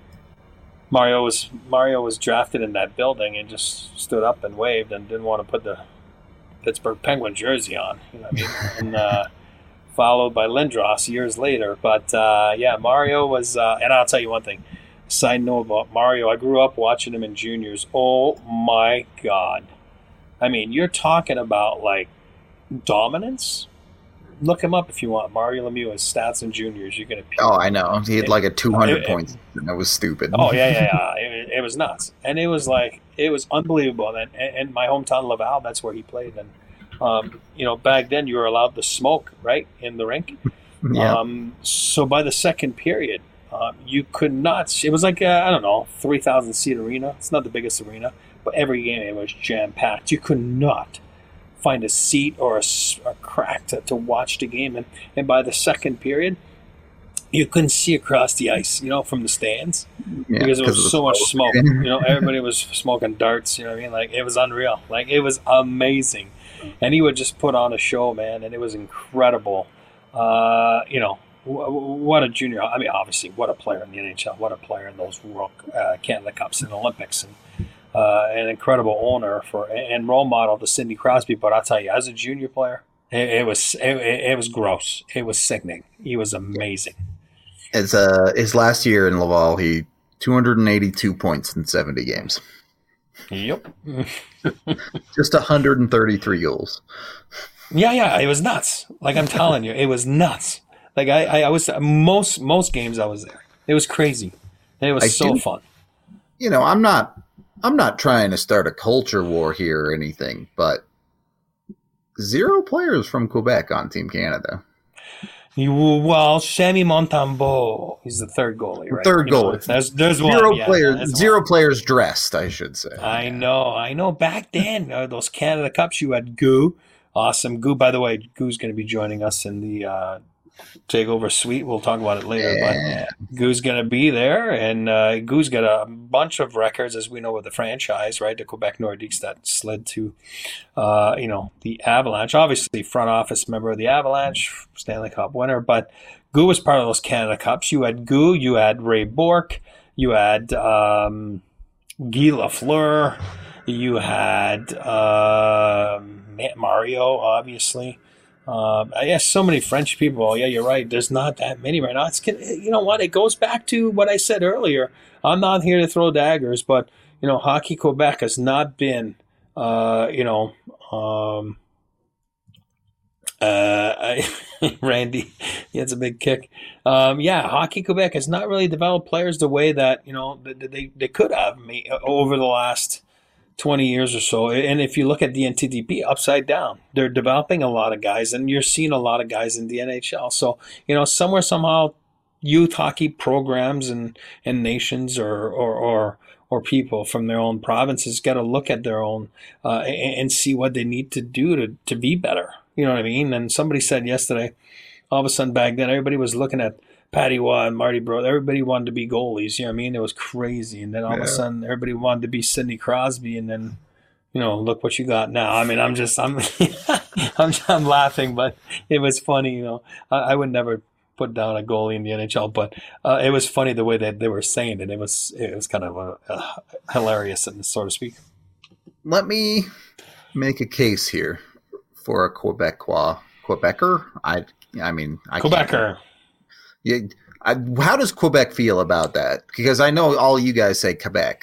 Mario was Mario was drafted in that building and just stood up and waved and didn't want to put the Pittsburgh Penguin jersey on. You know what I mean? And uh, followed by Lindros years later. But uh, yeah, Mario was. Uh, and I'll tell you one thing. Side note about Mario: I grew up watching him in juniors. Oh my God. I mean, you're talking about, like, dominance. Look him up if you want. Mario Lemieux, his stats in juniors. You're going to. Oh, I know. He had like a two hundred it, points. And that was stupid. Oh yeah, yeah, yeah. It, it was nuts, and it was like it was unbelievable. And, and my hometown Laval, that's where he played. And Um, you know, back then you were allowed to smoke, right, in the rink. Yeah. Um, so by the second period, um, you could not. It was like a, I don't know, three thousand seat arena. It's not the biggest arena, but every game it was jam packed. You could not find a seat or a, a crack to, to watch the game, and and by the second period, you couldn't see across the ice, you know, from the stands Yeah, because there 'cause was of the so much smoke. smoke. You know, everybody was smoking darts. You know what I mean? Like it was unreal. Like it was amazing, and he would just put on a show, man, and it was incredible. Uh, you know, w- w- what a junior. I mean, obviously, what a player in the N H L. What a player in those World uh, Canada Cups and Olympics, and uh, an incredible owner for and role model to Sidney Crosby. But I'll tell you, as a junior player, it, it was it, it was gross. It was sickening. He was amazing. As uh, his last year in Laval, he two hundred eighty-two points in seventy games. Yep. Just one hundred thirty-three goals. Yeah, yeah, it was nuts. Like I'm telling you, it was nuts. Like I, I, I was most most games I was there. It was crazy. It was I so do- fun. You know, I'm not I'm not trying to start a culture war here or anything, but zero players from Quebec on Team Canada. You, well, Sammy Montembeault, he's the third goalie, right? Third You know, goalie. there's there's Zero one. Yeah, players there's zero one. players dressed, I should say. I know, I know. Back then, uh, those Canada Cups, you had Goo. Awesome. Goo, by the way, Goo's going to be joining us in the uh, Takeover Suite. We'll talk about it later. Yeah. But Goo's going to be there, and uh, Goo's got a bunch of records, as we know, with the franchise, right? The Quebec Nordiques that slid to, uh, you know, the Avalanche. Obviously, front office member of the Avalanche, Stanley Cup winner. But Goo was part of those Canada Cups. You had Goo, you had Ray Bourque, you had um, Guy Lafleur, you had um, Matt Mario, obviously. Um, I guess so many French people. Yeah, you're right. There's not that many right now. It's you know what? It goes back to what I said earlier. I'm not here to throw daggers, but you know, Hockey Quebec has not been, uh, you know, um, uh, I, Randy, he has a big kick. Um, yeah, Hockey Quebec has not really developed players the way that you know that they they could have me over the last twenty years or so. And if you look at the N T D P, upside down, they're developing a lot of guys, and you're seeing a lot of guys in the N H L. So, you know, somewhere, somehow, youth hockey programs and, and nations or, or, or, or people from their own provinces got to look at their own uh, and, and see what they need to do to, to be better. You know what I mean? And somebody said yesterday, all of a sudden back then, everybody was looking at Patty Waugh and Marty Brodeur. Everybody wanted to be goalies. You know what I mean? It was crazy. And then all Yeah. of a sudden, everybody wanted to be Sidney Crosby. And then, you know, look what you got now. I mean, I'm just, I'm, I'm, I'm laughing, but it was funny. You know, I, I would never put down a goalie in the N H L, but uh, it was funny the way that they were saying it. It was, it was kind of a, a hilarious, so to speak. Let me make a case here for a Quebecois. Quebecer? I, I mean, I can't- Quebecer. Yeah, I, how does Quebec feel about that? Because I know all you guys say Quebec.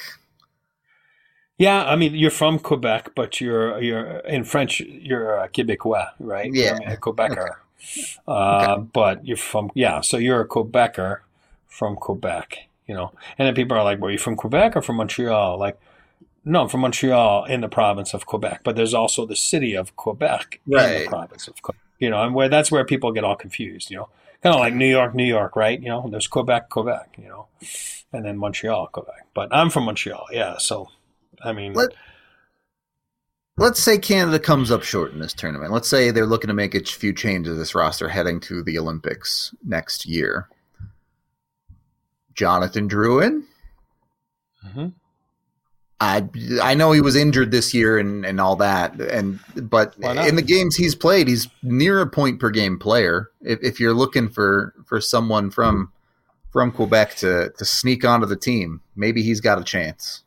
Yeah, I mean, you're from Quebec, but you're you're in French. You're a Québécois, right? Yeah. I mean, a Quebecer. Uh, Okay. But you're from yeah, so you're a Quebecer from Quebec, you know. And then people are like, "Were you from Quebec or from Montreal?" Like, no, I'm from Montreal in the province of Quebec, but there's also the city of Quebec in Right. the province of Quebec. You know, and where that's where people get all confused. You know, kind of like New York, New York, right? You know, there's Quebec, Quebec. You know, and then Montreal, Quebec. But I'm from Montreal, yeah. So, I mean. Let, let's say Canada comes up short in this tournament. Let's say they're looking to make a few changes to this roster heading to the Olympics next year. Jonathan Drouin? Mhm. I I know he was injured this year and, and all that, and but Why not? in the games he's played, he's near a point per game player. If, if you're looking for, for someone from from Quebec to, to sneak onto the team, maybe he's got a chance.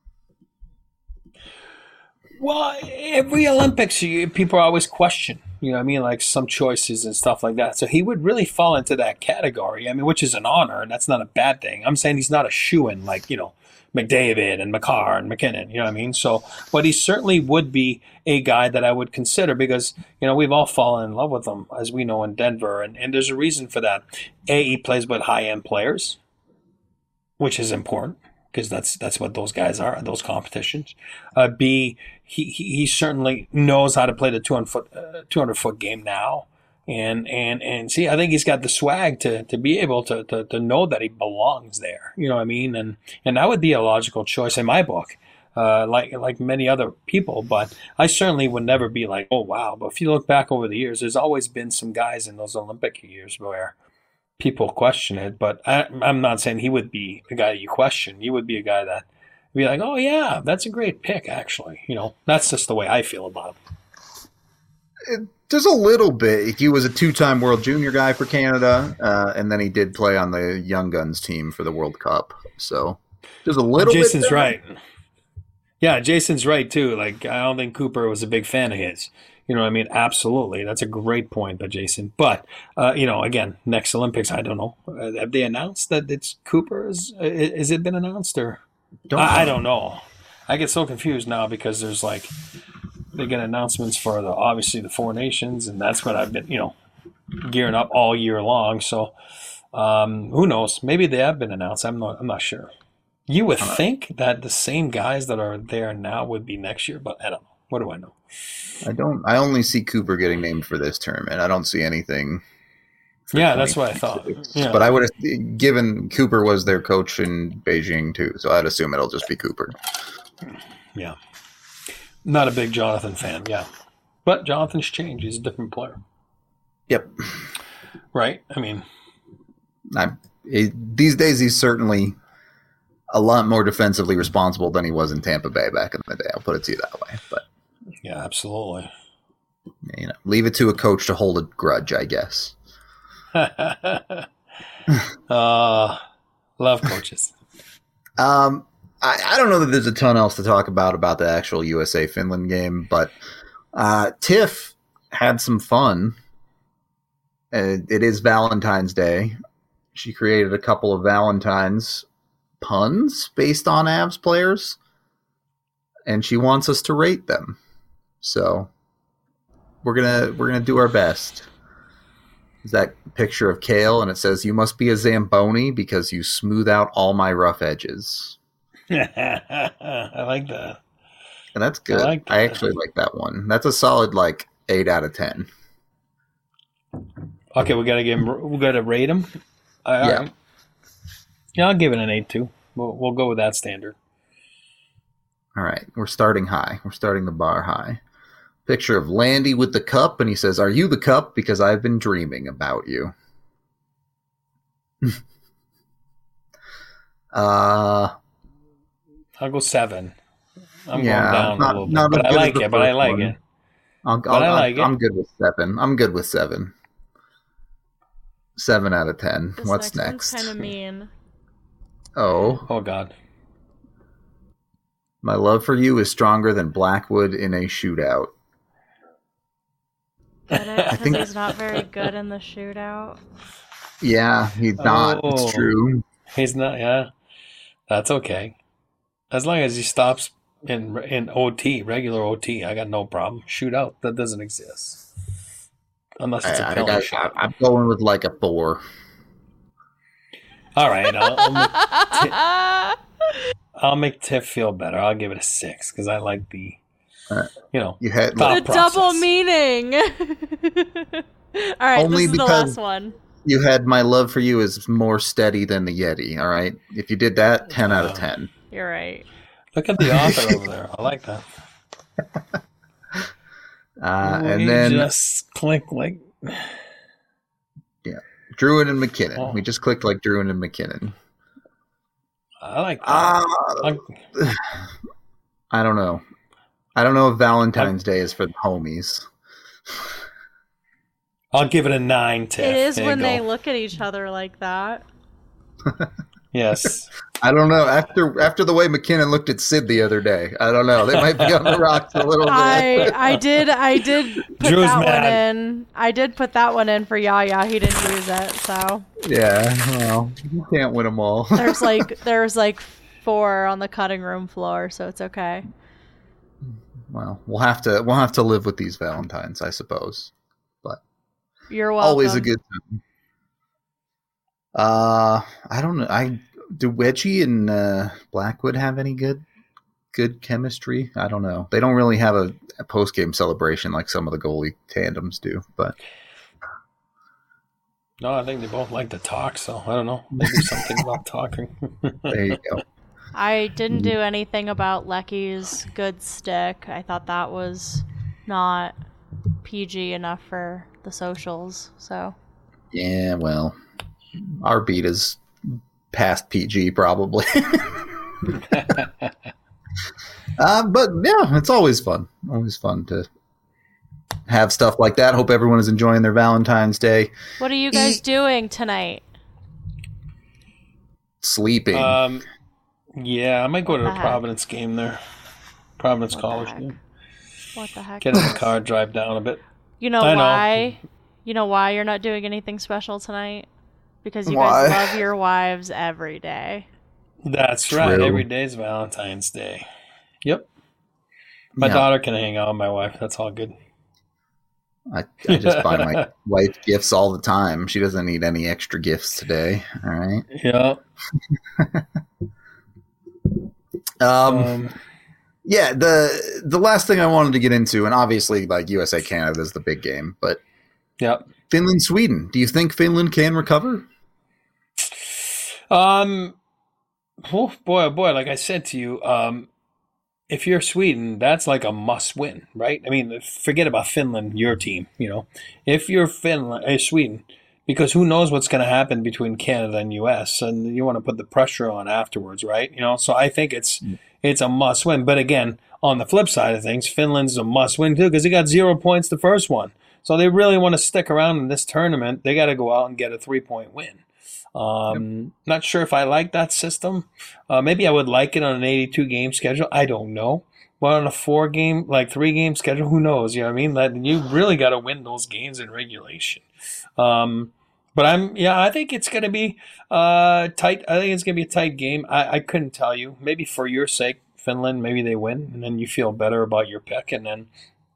Well, every Olympics, you, people always question, you know what I mean, like some choices and stuff like that. So he would really fall into that category, I mean, which is an honor, and that's not a bad thing. I'm saying he's not a shoo-in like, you know, McDavid and McCarr and McKinnon, you know what I mean? So, but he certainly would be a guy that I would consider because, you know, we've all fallen in love with him, as we know in Denver, and, and there's a reason for that. A, he plays with high-end players, which is important. because that's that's what those guys are, those competitions. Uh, B, he, he he certainly knows how to play the two hundred foot uh, two hundred foot game now, and and and see, I think he's got the swag to to be able to to to know that he belongs there. You know what I mean? And and that would be a logical choice in my book. Uh, like like many other people, but I certainly would never be like, oh wow. But if you look back over the years, there's always been some guys in those Olympic years where people question it. But I, I'm not saying he would be a guy you question. He would be a guy that would be like, oh yeah, that's a great pick. Actually, you know, that's just the way I feel about him. It, there's a little bit. He was a two-time World Junior guy for Canada, uh, and then he did play on the Young Guns team for the World Cup. So there's a little. Jason's bit there. right. Yeah, Jason's right, too. Like, I don't think Cooper was a big fan of his. You know what I mean? Absolutely. That's a great point by Jason. But, uh, you know, again, next Olympics, I don't know. Uh, have they announced that it's Cooper's? Uh, has it been announced? Or Don't I, I know. don't know. I get so confused now because there's, like, they get announcements for, the obviously, the Four Nations, and that's what I've been, you know, gearing up all year long. So, um, who knows? Maybe they have been announced. I'm not, I'm not sure. You would think that the same guys that are there now would be next year, but I don't know. What do I know? I don't. I only see Cooper getting named for this tournament. I don't see anything. for Yeah, that's what I thought. twenty-six. Yeah. But I would have given Cooper was their coach in Beijing too, so I'd assume it'll just be Cooper. Yeah. Not a big Jonathan fan, yeah. But Jonathan's changed. He's a different player. Yep. Right? I mean, I, he, these days he's certainly a lot more defensively responsible than he was in Tampa Bay back in the day. I'll put it to you that way. But yeah, absolutely. you know, leave it to a coach to hold a grudge, I guess. uh, love coaches. Um, I, I don't know that there's a ton else to talk about about the actual U S A Finland game, but uh, Tiff had some fun. Uh, it is Valentine's Day. She created a couple of Valentines puns based on Avs players, and she wants us to rate them. So we're gonna we're gonna do our best. Is that picture of Kale, and it says, "You must be a Zamboni because you smooth out all my rough edges." I like that. And that's good. I I, like that. actually like that one. That's a solid like eight out of ten. Okay, we gotta give him. We gotta rate him. All Yeah. right. Yeah, I'll give it an eight too. We'll we'll go with that standard. All right, we're starting high. We're starting the bar high. Picture of Landy with the cup, and he says, "Are you the cup? Because I've been dreaming about you." uh, I'll go seven. I'm Yeah, going down not- a little bit, not as but I good as like the it. But I first like one. it. I'll, But I'll, I like I'll, it. I'm good with seven. I'm good with seven. Seven out of ten. This What's next next? one's kind of mean. Oh, Oh God. my love for you is stronger than Blackwood in a shootout. Get it? Because think- he's not very good in the shootout. Yeah, he's not. Oh. It's true. He's not. Yeah, that's okay. As long as he stops in in O T, regular O T, I got no problem. Shootout, that doesn't exist unless it's a I, I, penalty I, shot. I'm going with like a four. All right, I'll, I'll, make, I'll make Tiff feel better. I'll give it a six because I like the, All right. you know, You had Thought The process. double meaning. All right, Only this is the because- last one. you had my love for you is more steady than the Yeti. All right, if you did that, ten out of ten. You're right. look at the author over there. I like that. Uh, Ooh, and he then just click like. Druin and McKinnon. Oh. We just clicked like Druin and McKinnon. I like that. Uh, I'll- I don't know. I don't know if Valentine's Day is for the homies. I'll give it a nine. Tiff. It is There you when they go. look at each other like that. Yes. I don't know. After after the way McKinnon looked at Sid the other day, I don't know. They might be on the rocks a little bit. I I did I did put Drew's that one mad. in. I did put that one in for Yaya. He didn't use it, so Yeah, well, you can't win them all. there's like there's like four on the cutting room floor, so it's okay. Well, we'll have to we'll have to live with these Valentines, I suppose. But You're welcome. always a good time. Uh, I don't know. I do Wedgie and uh, Blackwood have any good good chemistry? I don't know. They don't really have a, a post game celebration like some of the goalie tandems do, but. No, I think they both like to talk, so I don't know. Maybe something about talking. There you go. I didn't do anything about Lecky's good stick. I thought that was not P G enough for the socials, so. Yeah, well, our beat is past P G probably. uh, but yeah, it's always fun. Always fun to have stuff like that. Hope everyone is enjoying their Valentine's Day. What are you guys e- doing tonight? Sleeping. Um, yeah, I might go what to the, the Providence game there. Providence what College the game. What the heck? Get in the car, drive down a bit. You know I why? Know. You know why you're not doing anything special tonight? Because you why? guys love your wives every day. That's True. right. Every day is Valentine's Day. Yep. My yeah. daughter can hang out with my wife. That's all good. I, I just buy my wife gifts all the time. She doesn't need any extra gifts today. All right. Yeah. um, um. Yeah. The the last thing I wanted to get into, and obviously, like U S A Canada is the big game, but yeah, Finland Sweden. Do you think Finland can recover? Um. Oh boy, oh boy! Like I said to you, um. if you're Sweden, that's like a must-win, right? I mean, forget about Finland, your team. You know, if you're Finland, uh, Sweden, because who knows what's going to happen between Canada and U S, and you want to put the pressure on afterwards, right? You know, so I think it's mm. it's a must-win. But again, on the flip side of things, Finland's a must-win too because they got zero points the first one, so they really want to stick around in this tournament. They got to go out and get a three-point win. Um, yep. Not sure if I like that system. Uh, maybe I would like it on an eighty-two game schedule. I don't know. But on a four game, like three game schedule, who knows? You know what I mean? That you really got to win those games in regulation. Um, but I'm, yeah, I think it's going to be uh, tight. I think it's going to be a tight game. I, I couldn't tell you. Maybe for your sake, Finland, maybe they win, and then you feel better about your pick. And then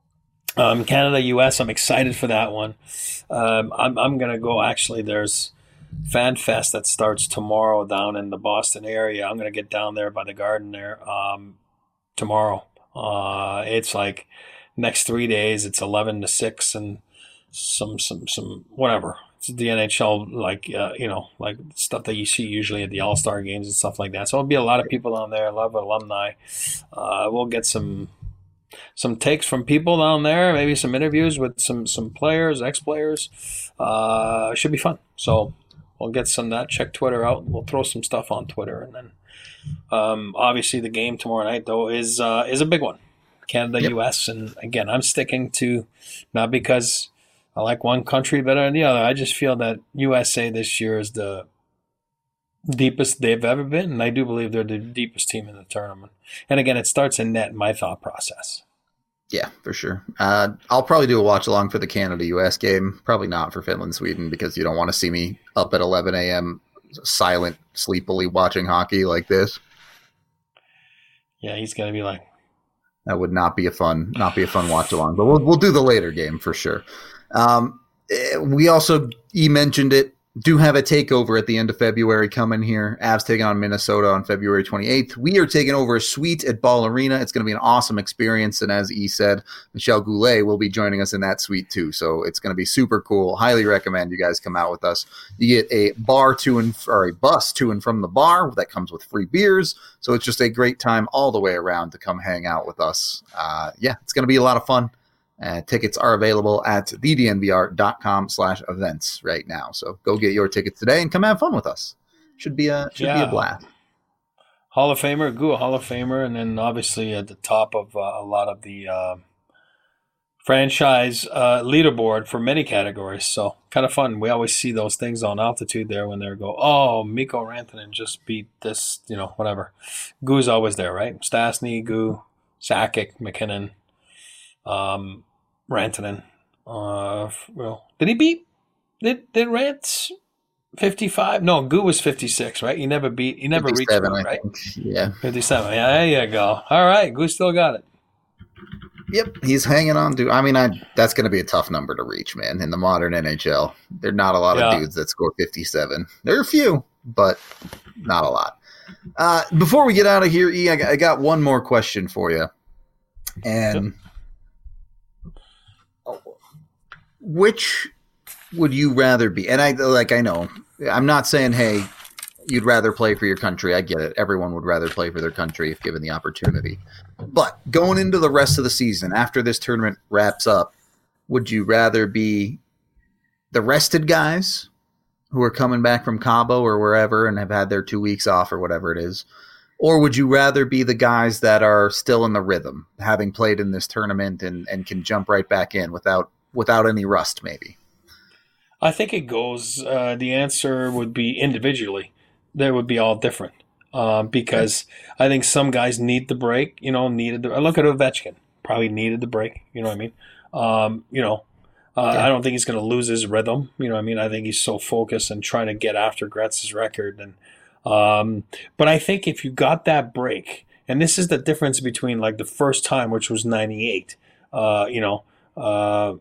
um, Canada, U S, I'm excited for that one. Um, I'm, I'm going to go. Actually, there's Fan Fest that starts tomorrow down in the Boston area. I'm going to get down there by the Garden there um, tomorrow. Uh, it's like next three days. It's eleven to six and some some some whatever. It's the N H L like uh, you know like stuff that you see usually at the All Star games and stuff like that. So it'll be a lot of people down there. A lot of alumni. Uh, we'll get some some takes from people down there. Maybe some interviews with some some players, ex players. Uh, should be fun. So. We'll get some of that. Check Twitter out. We'll throw some stuff on Twitter, and then um, obviously the game tomorrow night though is uh, is a big one. Canada, yep. U S, and again, I'm sticking to not because I like one country better than the other. I just feel that U S A this year is the deepest they've ever been, and I do believe they're the deepest team in the tournament. And again, it starts in net in my thought process. Yeah, for sure. Uh, I'll probably do a watch along for the Canada U S game. Probably not for Finland Sweden because you don't want to see me up at eleven a.m. silent, sleepily watching hockey like this. Yeah, he's gonna be like that would not be a fun, not be a fun watch along. But we'll we'll do the later game for sure. Um, we also you mentioned it. Do have a takeover at the end of February coming here. Avs taking on Minnesota on February twenty-eighth. We are taking over a suite at Ball Arena. It's going to be an awesome experience. And as E said, Michel Goulet will be joining us in that suite too. So it's going to be super cool. Highly recommend you guys come out with us. You get a bar to and or a bus to and from the bar that comes with free beers. So it's just a great time all the way around to come hang out with us. Uh, yeah, it's going to be a lot of fun. Uh, tickets are available at thednvr.com slash events right now. So go get your tickets today and come have fun with us. Should be a should yeah. be a blast. Hall of Famer, Goo, Hall of Famer, and then obviously at the top of uh, a lot of the uh, franchise uh, leaderboard for many categories. So kind of fun. We always see those things on altitude there when they go, oh, Mikko Rantanen just beat this, you know, whatever. Goo's always there, right? Stastny, Goo, Sakic, McKinnon. Um, Rantanen. Uh, well, did he beat? Did did Rant fifty-five? No, Goo was fifty-six, right? He never beat. He never reached Goo, right? Yeah, fifty-seven. Yeah, there you go. All right, Goo still got it. Yep, he's hanging on to. I mean, I that's going to be a tough number to reach, man. In the modern N H L, there are not a lot yeah. of dudes that score fifty-seven. There are a few, but not a lot. Uh, before we get out of here, E, I got, I got one more question for you. And which would you rather be? And I like I know I'm not saying, hey, you'd rather play for your country. I get it. Everyone would rather play for their country if given the opportunity. But going into the rest of the season, after this tournament wraps up, would you rather be the rested guys who are coming back from Cabo or wherever and have had their two weeks off or whatever it is? Or would you rather be the guys that are still in the rhythm, having played in this tournament and, and can jump right back in without without any rust maybe? I think it goes, uh, the answer would be individually. They would be all different uh, because I think some guys need the break, you know, needed the – look at Ovechkin, probably needed the break, you know what I mean? Um, you know, uh, yeah. I don't think he's going to lose his rhythm, you know what I mean? I think he's so focused and trying to get after Gretz's record. And um, But I think if you got that break, and this is the difference between like the first time, which was ninety-eight, uh, you know, uh,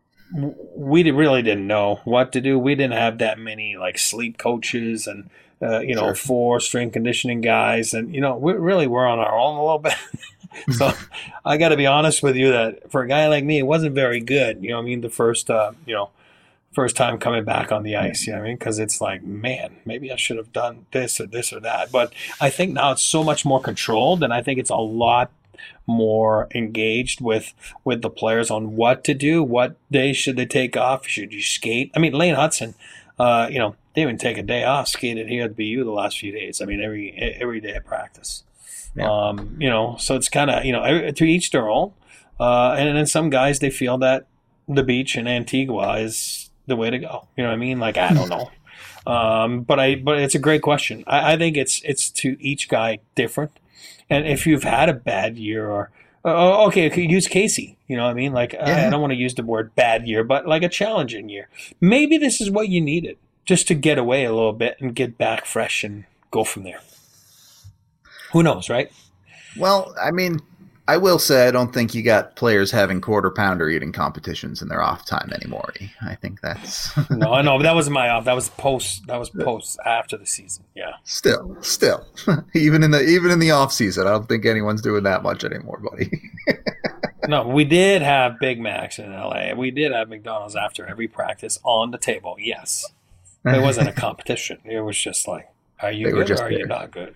we really didn't know what to do. We didn't have that many like sleep coaches and – Uh, you know, sure. four strength conditioning guys. And, you know, we really were on our own a little bit. So I got to be honest with you that for a guy like me, it wasn't very good. You know what I mean? The first, uh, you know, first time coming back on the ice, you know what I mean? Because it's like, man, maybe I should have done this or this or that. But I think now it's so much more controlled, and I think it's a lot more engaged with with the players on what to do, what days should they take off, should you skate? I mean, Lane Hudson, uh, you know, they didn't even take a day off, skated here at B U the last few days. I mean, every every day of practice. Yeah. Um, you know, so it's kind of, you know, every, to each their own. Uh, and then some guys, they feel that the beach in Antigua is the way to go. You know what I mean? Like, I don't know. Um, but I, but it's a great question. I, I think it's it's to each guy different. And if you've had a bad year or, oh, okay, okay, use Casey. You know what I mean? Like, yeah. I don't want to use the word bad year, but like a challenging year. Maybe this is what you needed, just to get away a little bit and get back fresh and go from there. Who knows, right? Well, I mean, I will say I don't think you got players having quarter pounder eating competitions in their off time anymore. I think that's no, I know, but that wasn't my off. That was post. That was post after the season. Yeah. Still, still, even in the even in the off season, I don't think anyone's doing that much anymore, buddy. No, we did have Big Macs in L A. We did have McDonald's after every practice on the table. Yes, it wasn't a competition. It was just like, are you they good or are there. You not good?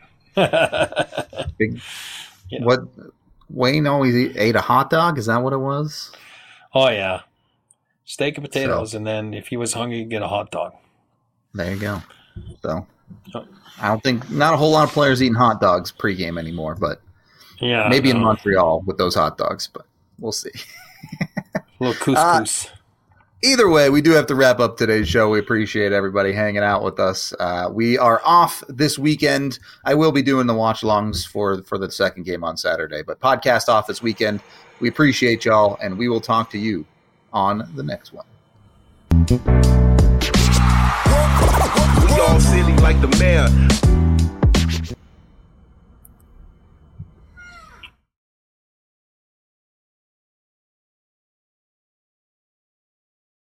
Big, you know. What? Wayne always eat, ate a hot dog? Is that what it was? Oh, yeah. Steak and potatoes, so, and then if he was hungry, he'd get a hot dog. There you go. So, oh. I don't think – not a whole lot of players eating hot dogs pregame anymore, but yeah, maybe no. in Montreal with those hot dogs, but we'll see. A little couscous. Uh, Either way, we do have to wrap up today's show. We appreciate everybody hanging out with us. Uh, we are off this weekend. I will be doing the watch-alongs for, for the second game on Saturday, but podcast off this weekend. We appreciate y'all, and we will talk to you on the next one. We all silly like the mayor.